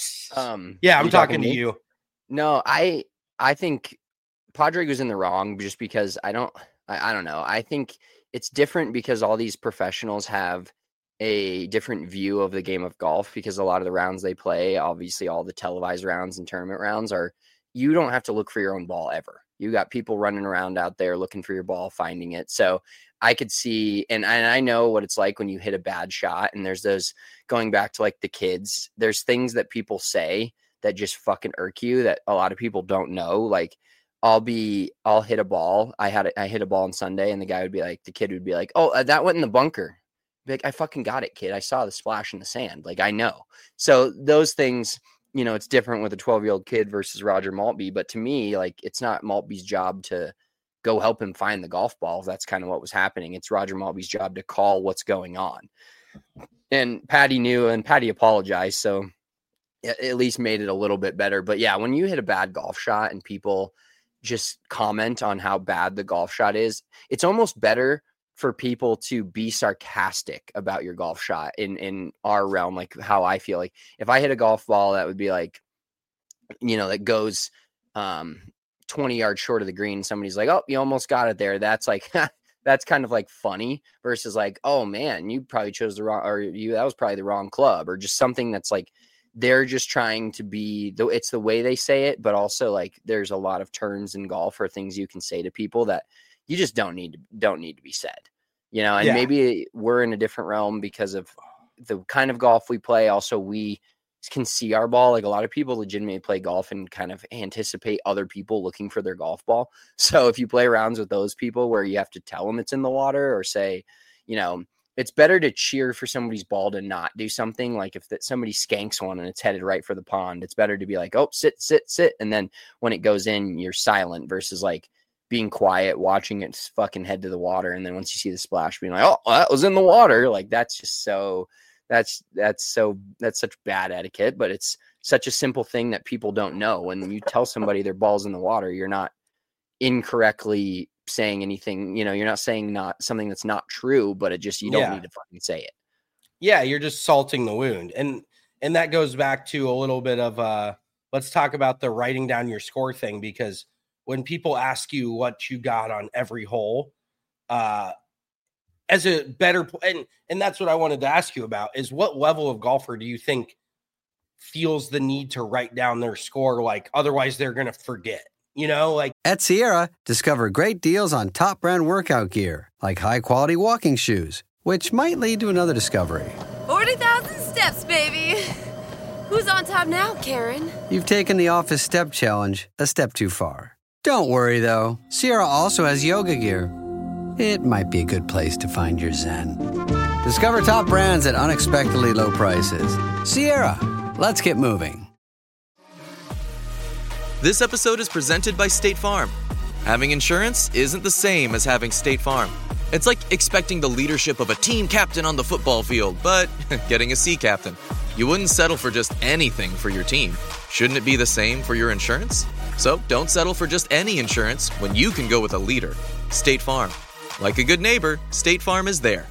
Um, yeah, I'm you talking, talking to me? you. No, I, I think Padraig was in the wrong just because I don't, I, I don't know. I think it's different because all these professionals have a different view of the game of golf, because a lot of the rounds they play, obviously all the televised rounds and tournament rounds, are, you don't have to look for your own ball ever. You got people running around out there looking for your ball, finding it. So I could see, and, and I know what it's like when you hit a bad shot, and there's those, going back to like the kids, there's things that people say that just fucking irk you that a lot of people don't know. Like I'll be, I'll hit a ball. I had, a, I hit a ball on Sunday, and the guy would be like, the kid would be like, oh, uh, that went in the bunker. Be like, I fucking got it, kid. I saw the splash in the sand. Like, I know. So those things, you know, it's different with a twelve year old kid versus Roger Maltby. But to me, like, it's not Maltby's job to go help him find the golf ball. That's kind of what was happening. It's Roger Maltby's job to call what's going on. And Patty knew, and Patty apologized. So it at least made it a little bit better. But yeah, when you hit a bad golf shot and people just comment on how bad the golf shot is, it's almost better for people to be sarcastic about your golf shot in, in our realm. Like how I feel like if I hit a golf ball that would be like, you know, that goes um, twenty yards short of the green, somebody's like, oh, you almost got it there. That's like, that's kind of like funny versus like, oh man, you probably chose the wrong, or you, that was probably the wrong club, or just something that's like, they're just trying to be, though it's the way they say it, but also like there's a lot of terms in golf or things you can say to people that you just don't need to, don't need to be said, you know, and yeah. Maybe we're in a different realm because of the kind of golf we play. Also, we can see our ball. Like a lot of people legitimately play golf and kind of anticipate other people looking for their golf ball. So if you play rounds with those people where you have to tell them it's in the water, or say, you know, it's better to cheer for somebody's ball to not do something. Like if that somebody skanks one and it's headed right for the pond, it's better to be like, oh, sit, sit, sit. And then when it goes in, you're silent, versus like being quiet, watching it fucking head to the water. And then once you see the splash, being like, oh, that was in the water. Like that's just so, that's, that's so, that's such bad etiquette, but it's such a simple thing that people don't know. When you tell somebody their ball's in the water, you're not incorrectly saying anything, you know, you're not saying not something that's not true, but it just, you don't yeah. need to fucking say it. Yeah. You're just salting the wound. And, and that goes back to a little bit of, uh, let's talk about the writing down your score thing, because when people ask you what you got on every hole, uh, as a better, and, and that's what I wanted to ask you about, is what level of golfer do you think feels the need to write down their score? Like, otherwise they're going to forget, you know, like at Sierra, discover great deals on top brand workout gear, like high quality walking shoes, which might lead to another discovery. forty thousand steps, baby. Who's on top now, Karen? You've taken the office step challenge a step too far. Don't worry, though. Sierra also has yoga gear. It might be a good place to find your zen. Discover top brands at unexpectedly low prices. Sierra, let's get moving. This episode is presented by State Farm. Having insurance isn't the same as having State Farm. It's like expecting the leadership of a team captain on the football field, but getting a sea captain. You wouldn't settle for just anything for your team. Shouldn't it be the same for your insurance? So don't settle for just any insurance when you can go with a leader. State Farm. Like a good neighbor, State Farm is there.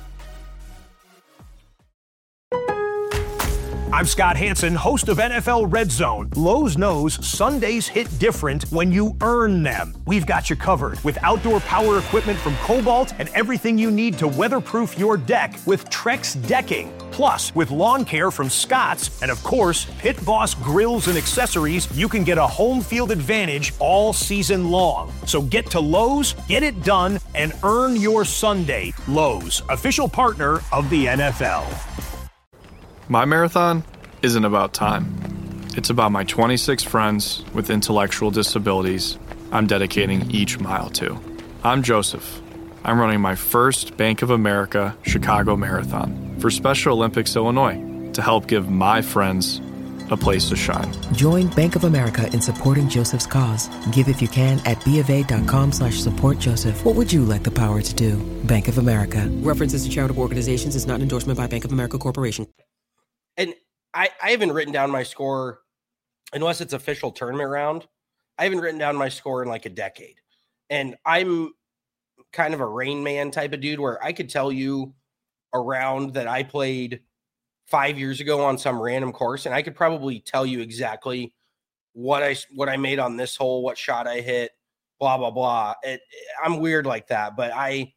I'm Scott Hanson, host of N F L Red Zone. Lowe's knows Sundays hit different when you earn them. We've got you covered with outdoor power equipment from Cobalt and everything you need to weatherproof your deck with Trex decking. Plus, with lawn care from Scott's and, of course, Pit Boss grills and accessories, you can get a home field advantage all season long. So get to Lowe's, get it done, and earn your Sunday. Lowe's, official partner of the N F L. My marathon? isn't about time. It's about my twenty-six friends with intellectual disabilities I'm dedicating each mile to. I'm Joseph. I'm running my first Bank of America Chicago Marathon for Special Olympics Illinois to help give my friends a place to shine. Join Bank of America in supporting Joseph's cause. Give if you can at bofa.com slash support Joseph. What would you like the power to do? Bank of America. References to charitable organizations is not an endorsement by Bank of America Corporation. And I, I haven't written down my score, unless it's official tournament round. I haven't written down my score in like a decade. And I'm kind of a Rain Man type of dude where I could tell you a round that I played five years ago on some random course, and I could probably tell you exactly what I what I made on this hole, what shot I hit, blah blah blah. It, I'm weird like that, but I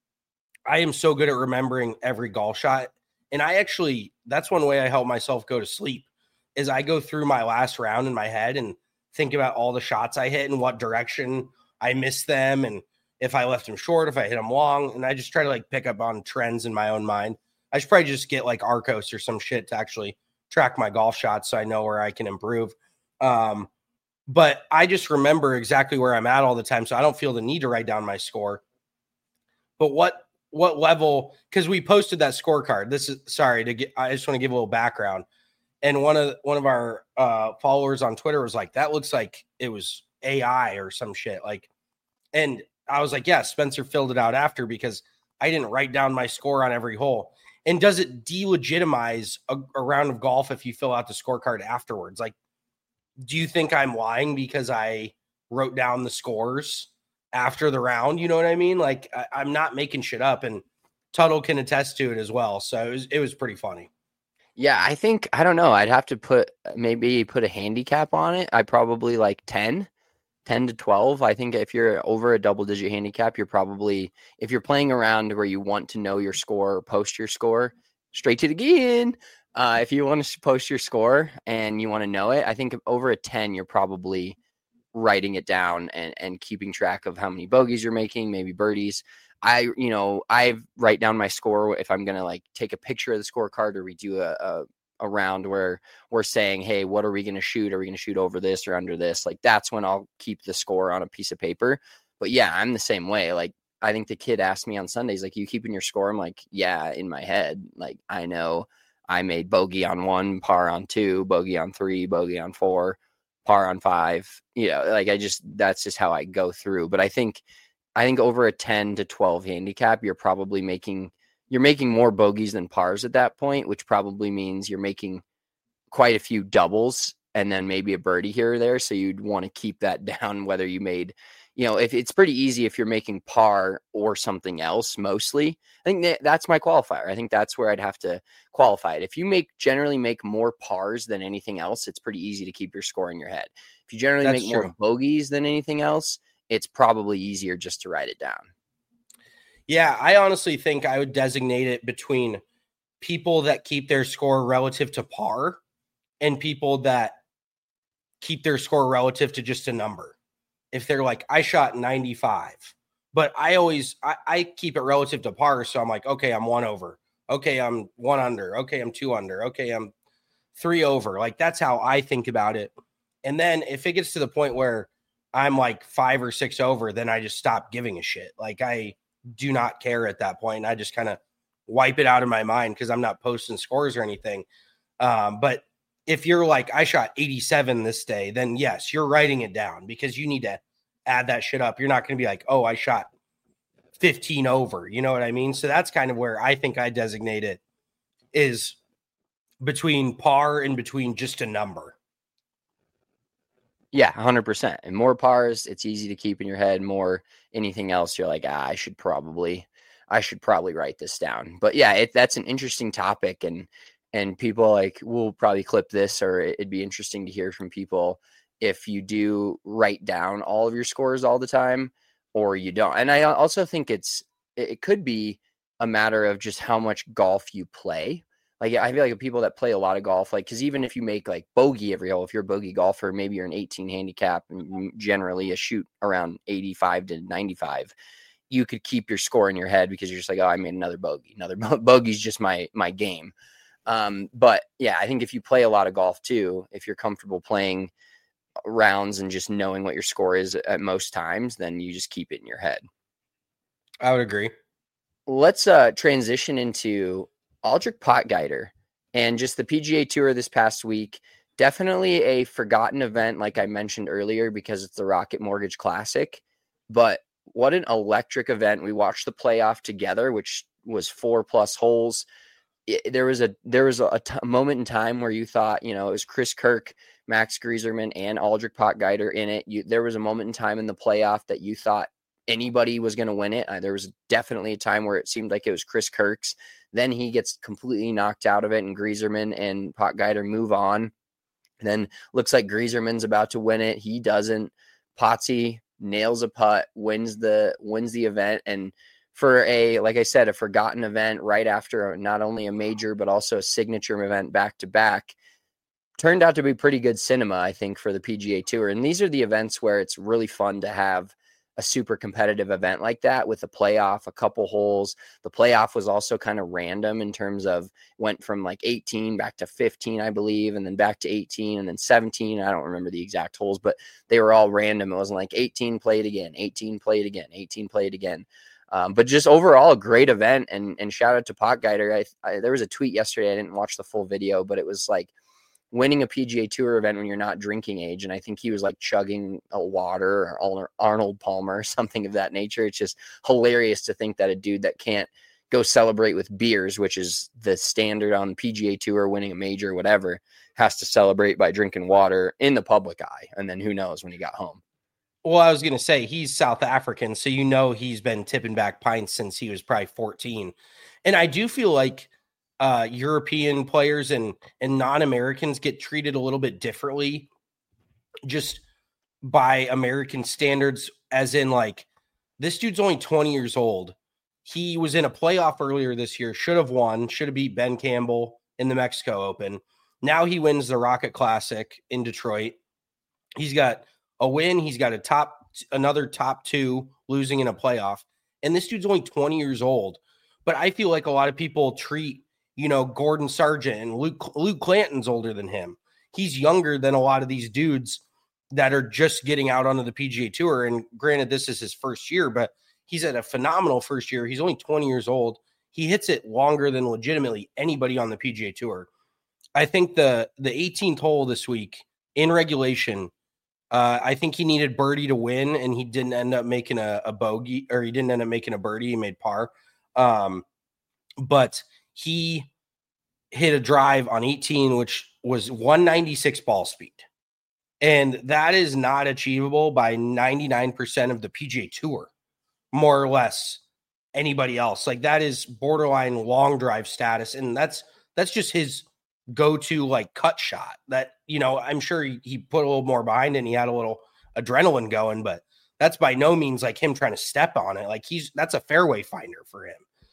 I am so good at remembering every golf shot, and I actually that's one way I help myself go to sleep is I go through my last round in my head and think about all the shots I hit and what direction I missed them, and if I left them short, if I hit them long, and I just try to like pick up on trends in my own mind. I should probably just get like Arcos or some shit to actually track my golf shots so I know where I can improve. Um, but I just remember exactly where I'm at all the time, so I don't feel the need to write down my score. But what what level, because we posted that scorecard. This is sorry to get I just want to give a little background. And one of one of our uh, followers on Twitter was like, that looks like it was A I or some shit. Like, and I was like, yeah, Spencer filled it out after because I didn't write down my score on every hole. And does it delegitimize a, a round of golf if you fill out the scorecard afterwards? Like, do you think I'm lying because I wrote down the scores after the round? You know what I mean? Like, I, I'm not making shit up, and Tuttle can attest to it as well. So it was, it was pretty funny. Yeah, I think, I don't know. I'd have to put, maybe put a handicap on it. I probably like ten. ten to twelve. I think if you're over a double digit handicap, you're probably, if you're playing around where you want to know your score or post your score, straight to the game. Uh, if you want to post your score and you want to know it, I think over a ten, you're probably writing it down and, and keeping track of how many bogeys you're making, maybe birdies. I, you know, I write down my score if I'm going to like take a picture of the scorecard or we do a, a around where we're saying, hey, what are we going to shoot? Are we going to shoot over this or under this? Like, that's when I'll keep the score on a piece of paper. But yeah, I'm the same way. Like, I think the kid asked me on Sundays, like, you keeping your score? I'm like, yeah, in my head. Like, I know I made bogey on one, par on two, bogey on three, bogey on four, par on five. You know, like, I just, that's just how I go through. But I think, I think over a ten to twelve handicap, you're probably making You're making more bogeys than pars at that point, which probably means you're making quite a few doubles and then maybe a birdie here or there. So you'd want to keep that down, whether you made, you know, if it's pretty easy if you're making par or something else, mostly. I think that, that's my qualifier. I think that's where I'd have to qualify it. If you make generally make more pars than anything else, it's pretty easy to keep your score in your head. If you generally That's make true. more bogeys than anything else, it's probably easier just to write it down. Yeah, I honestly think I would designate it between people that keep their score relative to par and people that keep their score relative to just a number. If they're like, I shot ninety-five, but I always, I, I keep it relative to par. So I'm like, okay, I'm one over. Okay, I'm one under. Okay, I'm two under. Okay, I'm three over. Like, that's how I think about it. And then if it gets to the point where I'm like five or six over, then I just stop giving a shit. Like, I do not care at that point. I just kind of wipe it out of my mind because I'm not posting scores or anything. Um, but if you're like, I shot eighty-seven this day, then yes, you're writing it down because you need to add that shit up. You're not going to be like, oh, I shot fifteen over. You know what I mean? So that's kind of where I think I designate it, is between par and between just a number. Yeah, one hundred percent. And more pars, it's easy to keep in your head. More anything else, you're like, ah, I should probably, I should probably write this down. But yeah, it, that's an interesting topic, and and people like will probably clip this, or it'd be interesting to hear from people if you do write down all of your scores all the time or you don't. And I also think it's it could be a matter of just how much golf you play. Like, I feel like people that play a lot of golf, like, because even if you make like bogey every hole, if you're a bogey golfer, maybe you're an eighteen handicap and generally a shoot around eighty-five to ninety-five, you could keep your score in your head because you're just like, oh, I made another bogey. Another bo- bogey's just my my game. Um, but yeah, I think if you play a lot of golf too, if you're comfortable playing rounds and just knowing what your score is at most times, then you just keep it in your head. I would agree. Let's uh, transition into Aldrich Potgieter and just the P G A Tour this past week. Definitely a forgotten event, like I mentioned earlier, because it's the Rocket Mortgage Classic. But what an electric event. We watched the playoff together, which was four plus holes. It, there was a there was a, a t- moment in time where you thought, you know, it was Chris Kirk, Max Grieserman, and Aldrich Potgieter in it. You, there was a moment in time in the playoff that you thought anybody was going to win it. Uh, there was definitely a time where it seemed like it was Chris Kirk's. Then he gets completely knocked out of it, and Grieserman and Potgieter move on. And then looks like Grieserman's about to win it. He doesn't. Potsy nails a putt, wins the wins the event, and for a, like I said, a forgotten event right after not only a major, but also a signature event back to back, turned out to be pretty good cinema, I think, for the P G A Tour. And these are the events where it's really fun to have a super competitive event like that with a playoff, a couple holes. The playoff was also kind of random in terms of went from like eighteen back to fifteen, I believe, and then back to eighteen and then seventeen. I don't remember the exact holes, but they were all random. It wasn't like eighteen played again, eighteen played again, eighteen played again. Um, but just overall a great event, and and shout out to Potgieter. I, I, there was a tweet yesterday. I didn't watch the full video, but it was like winning a P G A Tour event when you're not drinking age. And I think he was like chugging a water or Arnold Palmer, something of that nature. It's just hilarious to think that a dude that can't go celebrate with beers, which is the standard on the P G A Tour, winning a major or whatever, has to celebrate by drinking water in the public eye. And then who knows when he got home. Well, I was going to say he's South African, so you know he's been tipping back pints since he was probably fourteen. And I do feel like uh, European players and, and non-Americans get treated a little bit differently just by American standards, as in like, this dude's only twenty years old. He was in a playoff earlier this year, should have won, should have beat Ben Campbell in the Mexico Open. Now he wins the Rocket Classic in Detroit. He's got a win. He's got a top, another top two losing in a playoff. And this dude's only twenty years old. But I feel like a lot of people treat, you know, Gordon Sargent and Luke, Luke Clanton's older than him. He's younger than a lot of these dudes that are just getting out onto the P G A Tour. And granted, this is his first year, but he's at a phenomenal first year. He's only twenty years old. He hits it longer than legitimately anybody on the P G A Tour. I think the, the eighteenth hole this week in regulation, Uh, I think he needed birdie to win, and he didn't end up making a, a bogey, or he didn't end up making a birdie. He made par. Um, but he hit a drive on eighteen, which was one ninety-six ball speed. And that is not achievable by ninety-nine percent of the P G A Tour, more or less anybody else. Like, that is borderline long drive status. And that's, that's just his go-to like cut shot that, you know, I'm sure he, he put a little more behind it and he had a little adrenaline going, but that's by no means like him trying to step on it. Like, he's, that's a fairway finder for him.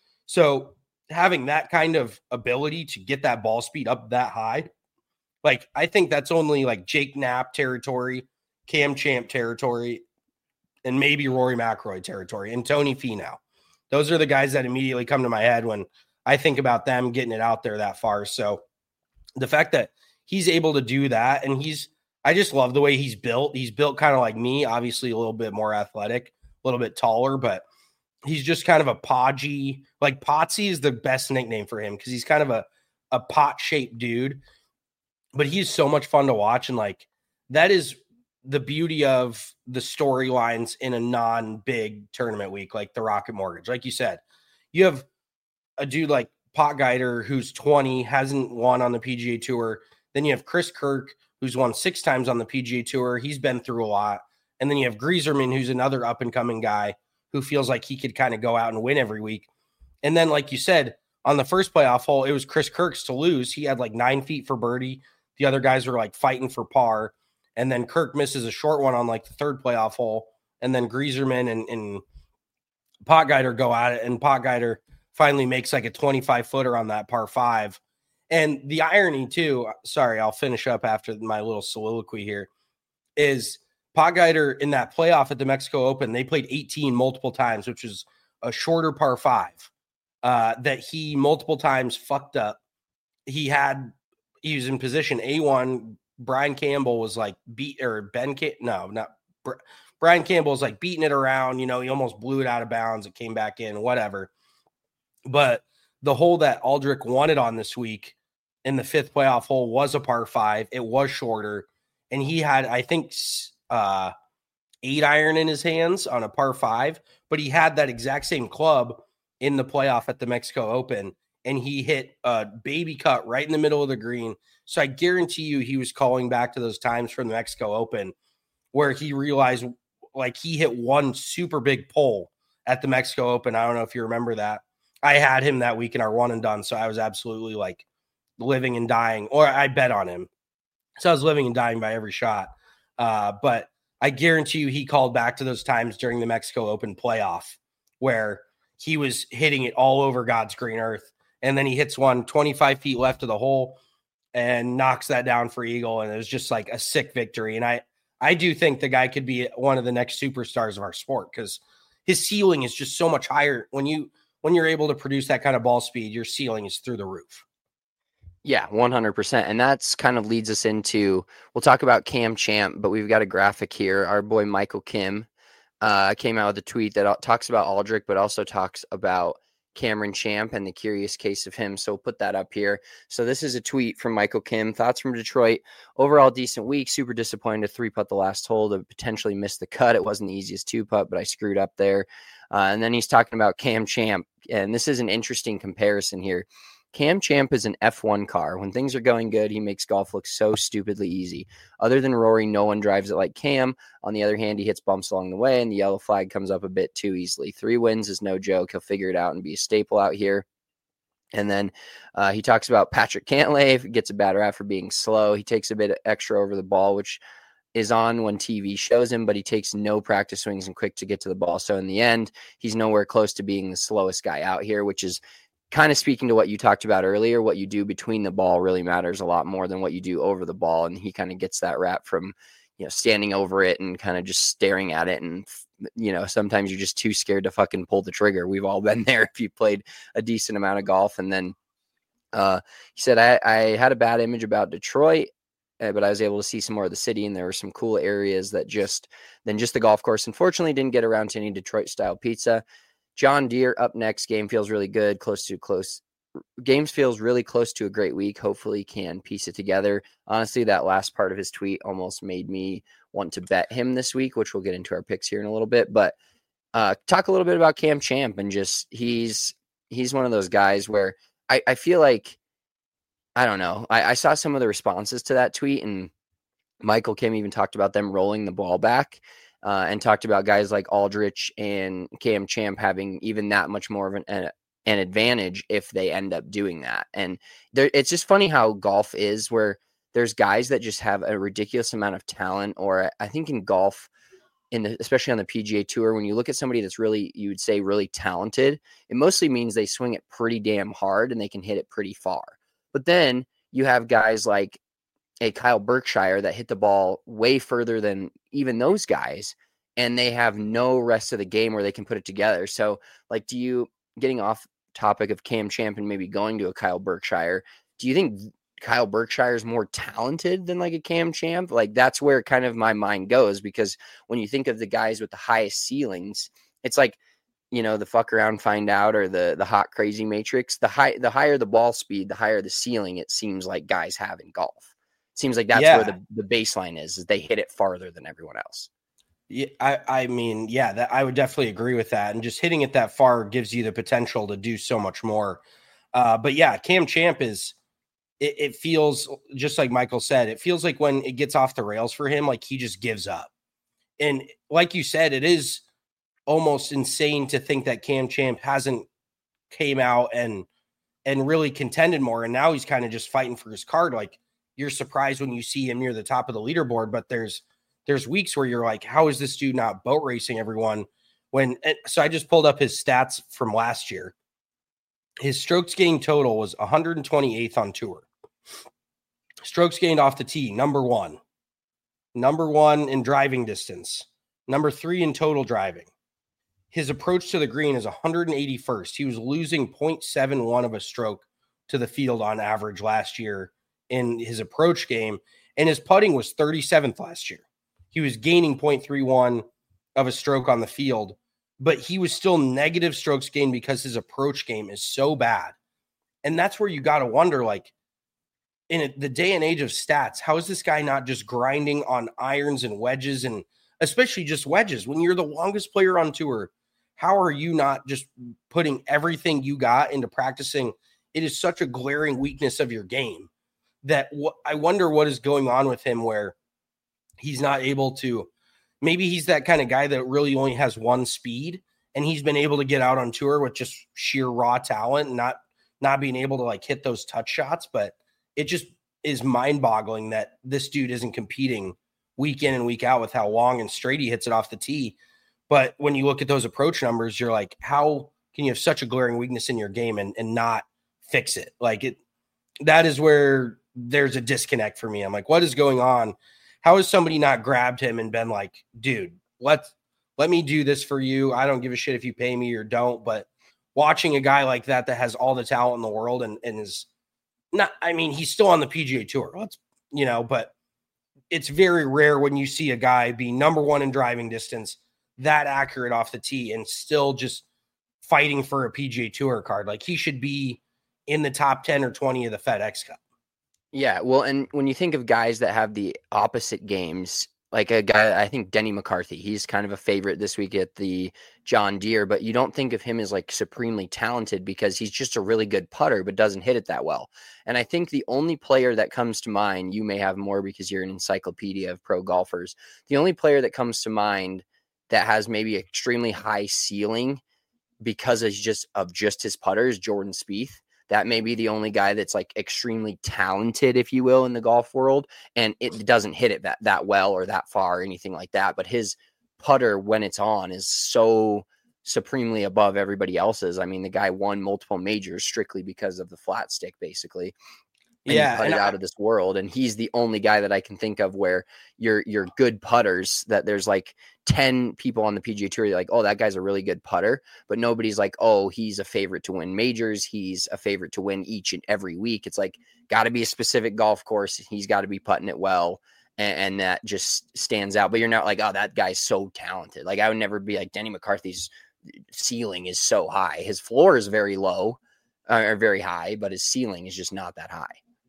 So having that kind of ability to get that ball speed up that high, like, I think that's only like Jake Knapp territory, Cam Champ territory, and maybe Rory McIlroy territory, and Tony Finau. Those are the guys that immediately come to my head when I think about them getting it out there that far. So the fact that he's able to do that, and he's, I just love the way he's built. He's built kind of like me, obviously a little bit more athletic, a little bit taller, but he's just kind of a podgy, like Potsy is the best nickname for him because he's kind of a, a pot-shaped dude, but he's so much fun to watch. And like, that is the beauty of the storylines in a non-big tournament week, like the Rocket Mortgage. Like you said, you have a dude like Potgieter, who's twenty, hasn't won on the P G A Tour. Then you have Chris Kirk, who's won six times on the P G A Tour. He's been through a lot. And then you have Grieserman, who's another up-and-coming guy who feels like he could kind of go out and win every week. And then, like you said, on the first playoff hole, it was Chris Kirk's to lose. He had like nine feet for birdie. The other guys were like fighting for par. And then Kirk misses a short one on like the third playoff hole. And then Grieserman and, and Potgieter go at it. And Potgieter finally makes like a twenty-five footer on that par five. And the irony too, sorry, I'll finish up after my little soliloquy here, is Potgieter in that playoff at the Mexico Open, they played eighteen multiple times, which is a shorter par five uh, that he multiple times fucked up. he had, he was in position A one. Brian Campbell was like beat or Ben, Cam- no, not Brian Campbell was like beating it around. You know, he almost blew it out of bounds. It came back in, whatever. But the hole that Aldrich won it on this week in the fifth playoff hole was a par five. It was shorter. And he had, I think, uh, eight iron in his hands on a par five, but he had that exact same club in the playoff at the Mexico Open. And he hit a baby cut right in the middle of the green. So I guarantee you he was calling back to those times from the Mexico Open where he realized like he hit one super big pole at the Mexico Open. I don't know if you remember that. I had him that week in our one and done. So I was absolutely like living and dying, or I bet on him. So I was living and dying by every shot. Uh, but I guarantee you he called back to those times during the Mexico Open playoff where he was hitting it all over God's green earth. And then he hits one twenty-five feet left of the hole and knocks that down for eagle. And it was just like a sick victory. And I, I do think the guy could be one of the next superstars of our sport because his ceiling is just so much higher. When you, when you're able to produce that kind of ball speed, your ceiling is through the roof. Yeah, one hundred percent. And that's kind of leads us into, we'll talk about Cam Champ, but we've got a graphic here. Our boy Michael Kim uh, came out with a tweet that talks about Aldrich, but also talks about Cameron Champ and the curious case of him. So we'll put that up here. So this is a tweet from Michael Kim. Thoughts from Detroit. Overall decent week. Super disappointed to three putt the last hole to potentially miss the cut. It wasn't the easiest two putt, but I screwed up there. Uh, and then he's talking about Cam Champ. And this is an interesting comparison here. Cam Champ is an F one car. When things are going good, he makes golf look so stupidly easy. Other than Rory, no one drives it like Cam. On the other hand, he hits bumps along the way, and the yellow flag comes up a bit too easily. Three wins is no joke. He'll figure it out and be a staple out here. And then uh, he talks about Patrick Cantlay, gets a bad rap for being slow. He takes a bit extra over the ball, which is on when T V shows him, but he takes no practice swings and quick to get to the ball. So in the end, he's nowhere close to being the slowest guy out here, which is kind of speaking to what you talked about earlier. What you do between the ball really matters a lot more than what you do over the ball. And he kind of gets that rap from, you know, standing over it and kind of just staring at it. And, you know, sometimes you're just too scared to fucking pull the trigger. We've all been there if you played a decent amount of golf. And then uh, he said, I, I had a bad image about Detroit, uh, but I was able to see some more of the city. And there were some cool areas that just, than just the golf course. Unfortunately, didn't get around to any Detroit style pizza. John Deere up next. Game feels really good. Close to close. Games feels really close to a great week. Hopefully can piece it together. Honestly, that last part of his tweet almost made me want to bet him this week, which we'll get into our picks here in a little bit. But uh, talk a little bit about Cam Champ and just he's he's one of those guys where I, I feel like, I don't know. I, I saw some of the responses to that tweet, and Michael Kim even talked about them rolling the ball back. Uh, and talked about guys like Aldrich and Cam Champ having even that much more of an, an, an advantage if they end up doing that. And there, it's just funny how golf is, where there's guys that just have a ridiculous amount of talent. Or I think in golf, in the, especially on the P G A Tour, when you look at somebody that's really, you would say really talented, it mostly means they swing it pretty damn hard and they can hit it pretty far. But then you have guys like a Kyle Berkshire that hit the ball way further than even those guys, and they have no rest of the game where they can put it together. So like, do you, getting off topic of Cam Champ and maybe going to a Kyle Berkshire, do you think Kyle Berkshire is more talented than like a Cam Champ? Like that's where kind of my mind goes, because when you think of the guys with the highest ceilings, it's like, you know, the fuck around, find out, or the, the hot, crazy matrix, the high, the higher the ball speed, the higher the ceiling, it seems like guys have in golf. Seems like that's yeah. where the, the baseline is, is they hit it farther than everyone else. Yeah, I, I mean, yeah, that I would definitely agree with that. And just hitting it that far gives you the potential to do so much more. Uh, but yeah, Cam Champ is, it, it feels just like Michael said, it feels like when it gets off the rails for him, like he just gives up. And like you said, it is almost insane to think that Cam Champ hasn't came out and, and really contended more. And now he's kind of just fighting for his card. Like, you're surprised when you see him near the top of the leaderboard, but there's there's weeks where you're like, how is this dude not boat racing everyone? When so I just pulled up his stats from last year. His strokes gained total was one hundred twenty-eighth on tour. Strokes gained off the tee, number one. Number one in driving distance. Number three in total driving. His approach to the green is one hundred eighty-first. He was losing zero point seven one of a stroke to the field on average last year in his approach game, and his putting was thirty-seventh last year. He was gaining zero point three one of a stroke on the field, but he was still negative strokes gained because his approach game is so bad. And that's where you got to wonder, like, in the day and age of stats, how is this guy not just grinding on irons and wedges, and especially just wedges? When you're the longest player on tour, how are you not just putting everything you got into practicing? It is such a glaring weakness of your game that w- I wonder what is going on with him, where he's not able to, maybe he's that kind of guy that really only has one speed, and he's been able to get out on tour with just sheer raw talent and not, not being able to like hit those touch shots. But it just is mind boggling that this dude isn't competing week in and week out with how long and straight he hits it off the tee. But when you look at those approach numbers, you're like, how can you have such a glaring weakness in your game and, and not fix it? Like it, that is where there's a disconnect for me. I'm like, what is going on? How has somebody not grabbed him and been like, dude, let, let me do this for you. I don't give a shit if you pay me or don't. But watching a guy like that, that has all the talent in the world and, and is not, I mean, he's still on the P G A Tour, let's, you know, but it's very rare when you see a guy be number one in driving distance, that accurate off the tee, and still just fighting for a P G A Tour card. Like, he should be in the top ten or twenty of the FedEx Cup. Yeah, well, and when you think of guys that have the opposite games, like a guy, I think Denny McCarthy, he's kind of a favorite this week at the John Deere, but you don't think of him as like supremely talented because he's just a really good putter, but doesn't hit it that well. And I think the only player that comes to mind, you may have more because you're an encyclopedia of pro golfers, the only player that comes to mind that has maybe extremely high ceiling because of just, of just his putter is Jordan Spieth. That may be the only guy that's like extremely talented, if you will, in the golf world. And it doesn't hit it that, that well or that far or anything like that. But his putter, when it's on, is so supremely above everybody else's. I mean, the guy won multiple majors strictly because of the flat stick, basically. And yeah, he putted and I, out of this world. And he's the only guy that I can think of where you're, you're good putters, that there's like ten people on the P G A Tour. You're like, oh, that guy's a really good putter, but nobody's like, oh, he's a favorite to win majors. He's a favorite to win each and every week. It's like, got to be a specific golf course. He's got to be putting it well. And, and that just stands out, but you're not like, oh, that guy's so talented. Like, I would never be like, Denny McCarthy's ceiling is so high. His floor is very low uh, or very high, but his ceiling is just not that high.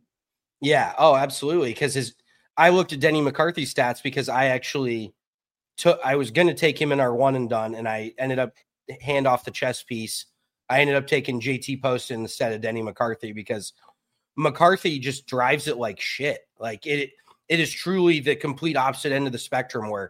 Yeah. Oh, absolutely. Because his, I looked at Denny McCarthy's stats because I actually took, I was going to take him in our one and done, and I ended up hand off the chess piece. I ended up taking J T Poston instead of Denny McCarthy because McCarthy just drives it like shit. Like it, it is truly the complete opposite end of the spectrum, where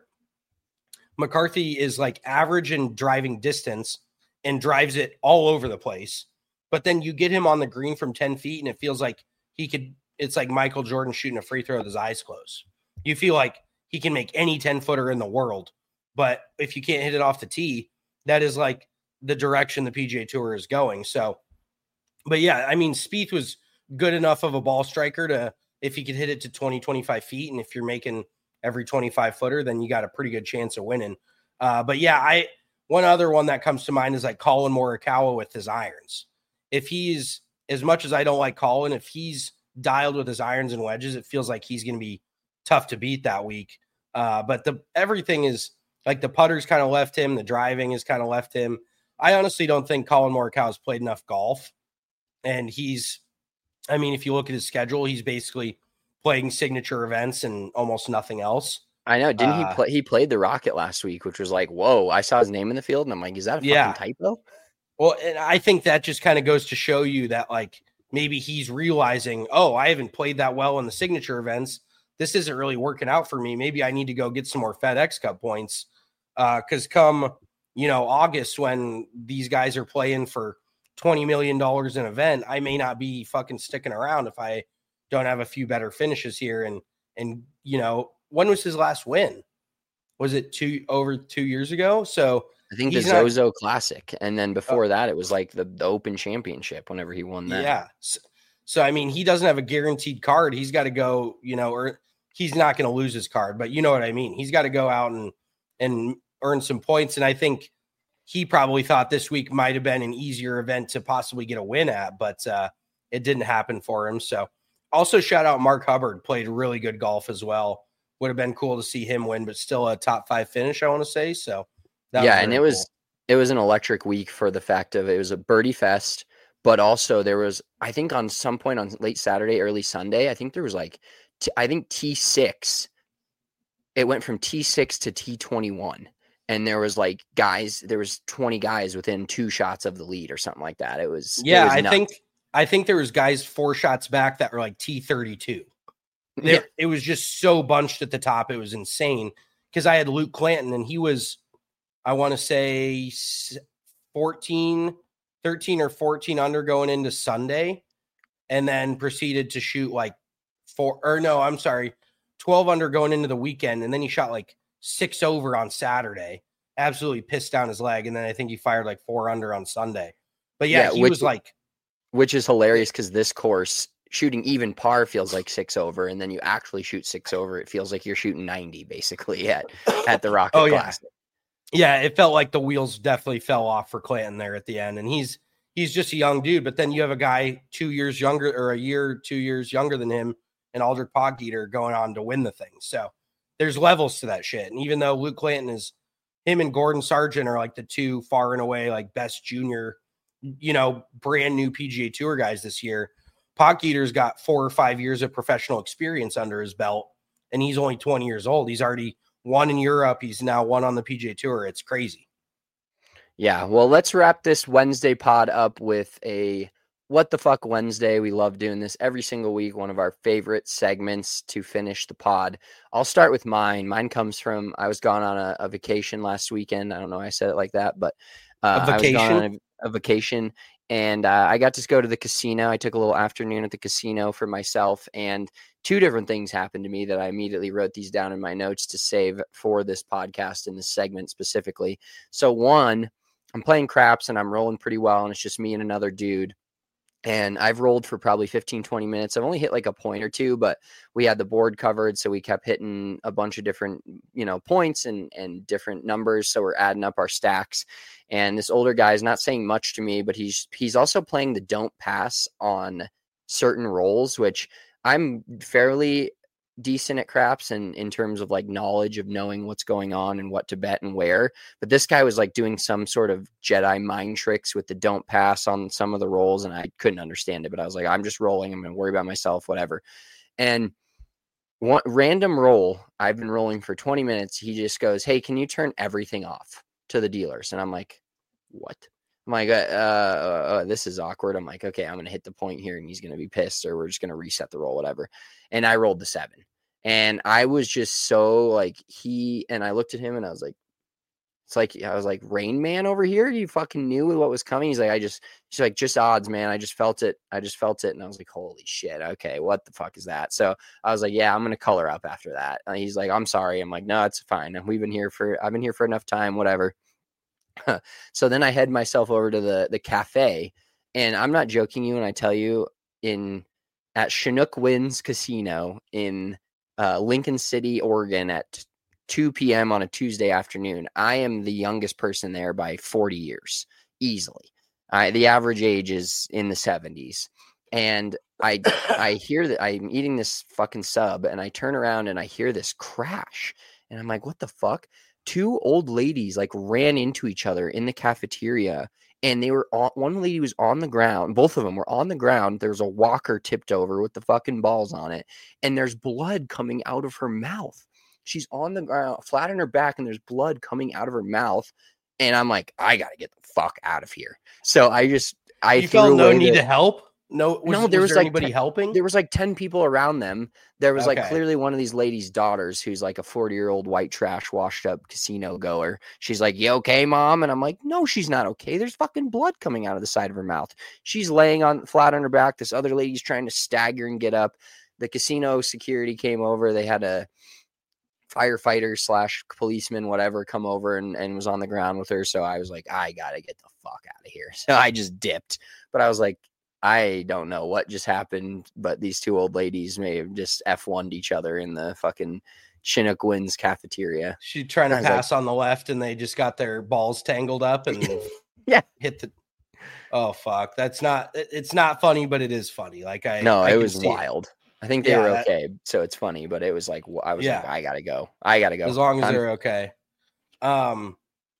McCarthy is like average in driving distance and drives it all over the place. But then you get him on the green from ten feet and it feels like he could, it's like Michael Jordan shooting a free throw with his eyes closed. You feel like he can make any ten footer in the world, but if you can't hit it off the tee, that is like the direction the P G A Tour is going. So, but yeah, I mean, Spieth was good enough of a ball striker to, if he could hit it to twenty, twenty-five feet, and if you're making every twenty-five footer, then you got a pretty good chance of winning. Uh, but yeah, I, one other one that comes to mind is like Colin Morikawa with his irons. If he's, as much as I don't like Colin, if he's dialed with his irons and wedges, it feels like he's going to be tough to beat that week. Uh, but the everything is like the putter's kind of left him. The driving has kind of left him. I honestly don't think Colin Morikawa has played enough golf. And he's, I mean, if you look at his schedule, he's basically playing signature events and almost nothing else. I know. Didn't uh, he play? He played the Rocket last week, which was like, whoa, I saw his name in the field. And I'm like, is that a yeah. fucking typo? Well, and I think that just kind of goes to show you that like, maybe he's realizing, oh, I haven't played that well in the signature events. This isn't really working out for me. Maybe I need to go get some more FedEx Cup points. Uh, cause come, you know, August, when these guys are playing for twenty million dollars an event, I may not be fucking sticking around if I don't have a few better finishes here. And, and, you know, when was his last win? Was it two over two years ago? So I think the Zozo not, Classic. And then before uh, that, it was like the, the Open Championship whenever he won that. Yeah. So, so, I mean, he doesn't have a guaranteed card. He's got to go, you know, or he's not going to lose his card, but you know what I mean? He's got to go out and, and earn some points. And I think he probably thought this week might've been an easier event to possibly get a win at, but uh, it didn't happen for him. So also shout out Mark Hubbard, played really good golf as well. Would have been cool to see him win, but still a top five finish, I want to say. So that yeah, was and it cool. was it was an electric week for the fact of it was a birdie fest, but also there was, I think on some point on late Saturday, early Sunday, I think there was like, t- I think T six, it went from T six to T twenty-one. And there was like guys, there was twenty guys within two shots of the lead or something like that. It was, yeah, it was I nuts. think, I think there was guys four shots back that were like T thirty-two. There, Yeah. It was just so bunched at the top. It was insane because I had Luke Clanton and he was, I want to say fourteen, thirteen or fourteen under going into Sunday, and then proceeded to shoot like four or no, I'm sorry, twelve under going into the weekend. And then he shot like six over on Saturday, absolutely pissed down his leg. And then I think he fired like four under on Sunday. But yeah, Yeah, he which- was like, Which is hilarious because this course, shooting even par feels like six over, and then you actually shoot six over, it feels like you're shooting ninety basically at, at the Rocket Oh, yeah. Classic. yeah, it felt like the wheels definitely fell off for Clanton there at the end. And he's, he's just a young dude, but then you have a guy two years younger or a year, two years younger than him and Aldrich Podgeter going on to win the thing. So there's levels to that shit. And even though Luke Clanton is, him and Gordon Sargent are like the two far and away, like best junior, you know, brand new P G A Tour guys this year, Podgeter's got four or five years of professional experience under his belt, and he's only twenty years old. He's already won in Europe. He's now won on the P G A Tour. It's crazy. Yeah, well, let's wrap this Wednesday pod up with a What the Fuck Wednesday. We love doing this every single week, one of our favorite segments to finish the pod. I'll start with mine. Mine comes from, I was gone on a, a vacation last weekend. I don't know why I said it like that, but uh, A I was gone vacation? on a, a vacation, and uh, I got to go to the casino. I took a little afternoon at the casino for myself, and two different things happened to me that I immediately wrote these down in my notes to save for this podcast and this segment specifically. So one, I'm playing craps and I'm rolling pretty well, and it's just me and another dude. And I've rolled for probably fifteen, twenty minutes. I've only hit like a point or two, but we had the board covered. So we kept hitting a bunch of different, you know, points and, and different numbers. So we're adding up our stacks. And this older guy is not saying much to me, but he's, he's also playing the don't pass on certain rolls, which I'm fairly decent at craps and in terms of like knowledge of knowing what's going on and what to bet and where. But this guy was like doing some sort of Jedi mind tricks with the don't pass on some of the rolls, and I couldn't understand it. But I was like, I'm just rolling. I'm gonna worry about myself, whatever. And one random roll, I've been rolling for twenty minutes. He just goes, "Hey, can you turn everything off to the dealers?" And I'm like, "What?" I'm like, uh, uh, uh, this is awkward. I'm like, okay, I'm going to hit the point here and he's going to be pissed, or we're just going to reset the roll, whatever. And I rolled the seven, and I was just so like he, and I looked at him and I was like, it's like, I was like, Rain Man over here. You fucking knew what was coming. He's like, I just, she's like, just odds, man. I just felt it. I just felt it. And I was like, holy shit. Okay. What the fuck is that? So I was like, yeah, I'm going to color up after that. And he's like, I'm sorry. I'm like, no, it's fine. We've been here for, I've been here for enough time, whatever. So then I head myself over to the the cafe, and I'm not joking you when I tell you, in at Chinook Winds Casino in uh, Lincoln City, Oregon at two p.m. on a Tuesday afternoon, I am the youngest person there by forty years, easily. I, the average age is in the seventies. And I I hear that I'm eating this fucking sub, and I turn around and I hear this crash, and I'm like, what the fuck? Two old ladies like ran into each other in the cafeteria, and they were on, one lady was on the ground. Both of them were on the ground. There's a walker tipped over with the fucking balls on it, and there's blood coming out of her mouth. She's on the ground, flat on her back, and there's blood coming out of her mouth. And I'm like, I got to get the fuck out of here. So I just, I you felt no need the, to help. No, was, no, there was, was there like anybody ten, helping. There was like ten people around them. There was Okay. like clearly one of these ladies' daughters who's like a forty year old white trash washed up casino goer. She's like, "You okay, mom?" And I'm like, "No, she's not okay. There's fucking blood coming out of the side of her mouth. She's laying on flat on her back. This other lady's trying to stagger and get up." The casino security came over. They had a firefighter slash policeman, whatever, come over and, and was on the ground with her. So I was like, I gotta get the fuck out of here. So I just dipped. But I was like, I don't know what just happened, but these two old ladies may have just F one'd each other in the fucking Chinook Winds cafeteria. She trying to I was pass like, on the left, and they just got their balls tangled up and yeah, hit the. Oh fuck, that's not. It's not funny, but it is funny. Like I no, I it was wild. It. I think they yeah, were okay, that, so it's funny. But it was like I was yeah. like, I gotta go. I gotta go. As long as I'm, they're okay. Um,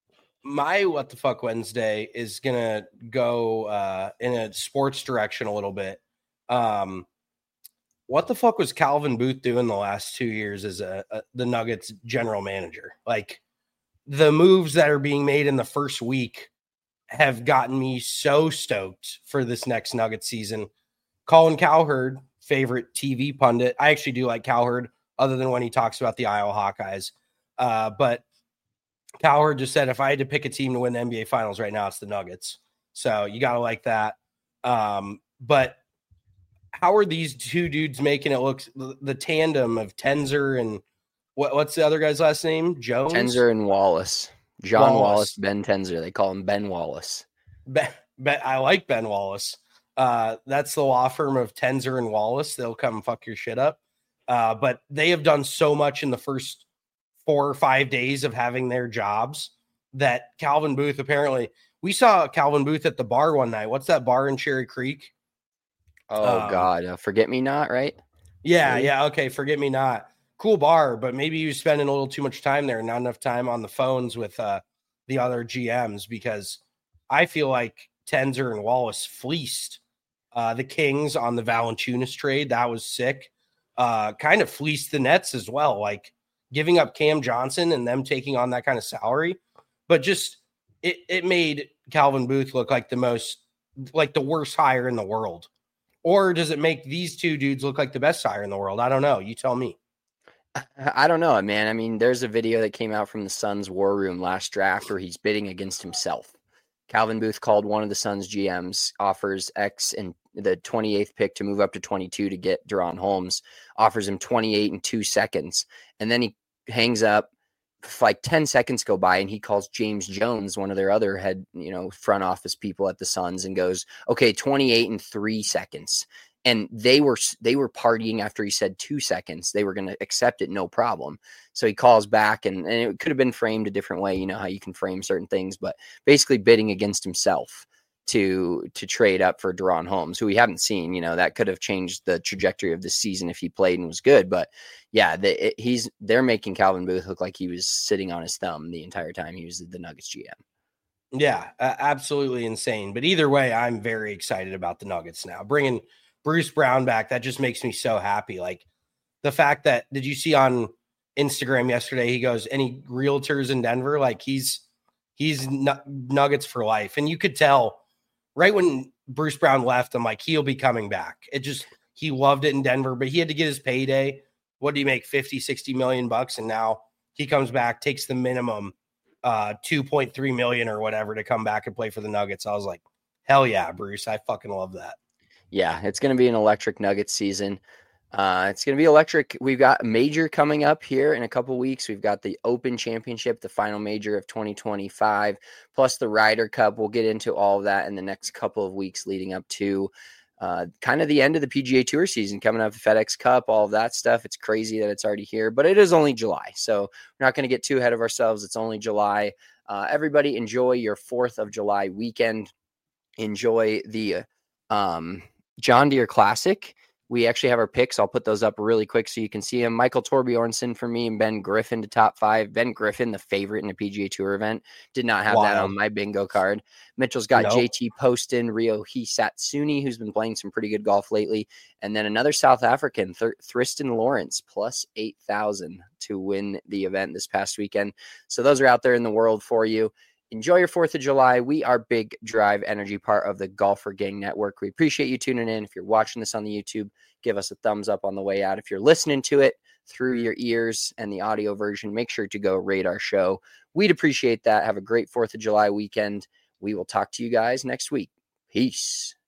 my what the fuck Wednesday is gonna go uh, in a sports direction a little bit. Um, what the fuck was Calvin Booth doing the last two years as a, a the Nuggets general manager? Like the moves that are being made in the first week have gotten me so stoked for this next Nuggets season. Colin Cowherd, favorite T V pundit. I actually do like Cowherd, other than when he talks about the Iowa Hawkeyes. Uh, but Cowherd just said, if I had to pick a team to win the N B A Finals right now, it's the Nuggets. So you got to like that. Um, but how are these two dudes making it look, the, the tandem of Tenzer and what, what's the other guy's last name? Jones? Tenzer and Wallace. John Wallace. Wallace, Ben Tenzer. They call him Ben Wallace. Ben, ben, I like Ben Wallace. Uh, that's the law firm of Tenzer and Wallace. They'll come fuck your shit up. Uh, but they have done so much in the first four or five days of having their jobs that Calvin Booth, apparently, we saw Calvin Booth at the bar one night. What's that bar in Cherry Creek? Oh, um, God. Uh, Forget Me Not, right? Yeah, Maybe? yeah. Okay, Forget Me Not. Cool bar, but maybe he was spending a little too much time there, not enough time on the phones with uh, the other G Ms, because I feel like Tenzer and Wallace fleeced uh, the Kings on the Valanciunas trade. That was sick. Uh, kind of fleeced the Nets as well, like giving up Cam Johnson and them taking on that kind of salary. But just it, it made Calvin Booth look like the most, like the worst hire in the world. Or does it make these two dudes look like the best hire in the world? I don't know. You tell me. I don't know, man. I mean, there's a video that came out from the Suns war room last draft where he's bidding against himself. Calvin Booth called one of the Suns G Ms, offers X and the twenty-eighth pick to move up to twenty-two to get Deron Holmes, offers him twenty-eight in two seconds. And then he hangs up, like ten seconds go by, and he calls James Jones, one of their other head, you know, front office people at the Suns, and goes, okay, twenty-eight in three seconds. And they were they were partying after he said two seconds. They were going to accept it, no problem. So he calls back, and, and it could have been framed a different way. You know how you can frame certain things, but basically bidding against himself to to trade up for Deron Holmes, who we haven't seen. You know, that could have changed the trajectory of the season if he played and was good. But yeah, the, it, he's they're making Calvin Booth look like he was sitting on his thumb the entire time he was the Nuggets G M. Yeah, uh, absolutely insane. But either way, I'm very excited about the Nuggets now. Bringing Bruce Brown back, that just makes me so happy. Like the fact that, did you see on Instagram yesterday, he goes, any realtors in Denver? Like he's, he's Nuggets for life. And you could tell right when Bruce Brown left, I'm like, he'll be coming back. It just, he loved it in Denver, but he had to get his payday. What do you make? fifty, sixty million bucks. And now he comes back, takes the minimum uh, two point three million or whatever to come back and play for the Nuggets. I was like, hell yeah, Bruce. I fucking love that. Yeah, it's going to be an electric Nuggets season. Uh, it's going to be electric. We've got a major coming up here in a couple weeks. We've got the Open Championship, the final major of twenty twenty-five, plus the Ryder Cup. We'll get into all of that in the next couple of weeks leading up to uh, kind of the end of the P G A Tour season, coming up, the FedEx Cup, all of that stuff. It's crazy that it's already here, but it is only July, so we're not going to get too ahead of ourselves. It's only July. Uh, everybody enjoy your fourth of July weekend. Enjoy the um, John Deere Classic. We actually have our picks. I'll put those up really quick so you can see them. Michael Torbjornsen for me and Ben Griffin to top five. Ben Griffin, the favorite in a P G A Tour event. Did not have wow. that on my bingo card. Mitchell's got nope. J T Poston, Ryohei Satsuni, who's been playing some pretty good golf lately. And then another South African, Th- Thriston Lawrence, plus eight thousand to win the event this past weekend. So those are out there in the world for you. Enjoy your fourth of July. We are Big Drive Energy, part of the Golfer Gang Network. We appreciate you tuning in. If you're watching this on the YouTube, give us a thumbs up on the way out. If you're listening to it through your ears and the audio version, make sure to go rate our show. We'd appreciate that. Have a great fourth of July weekend. We will talk to you guys next week. Peace.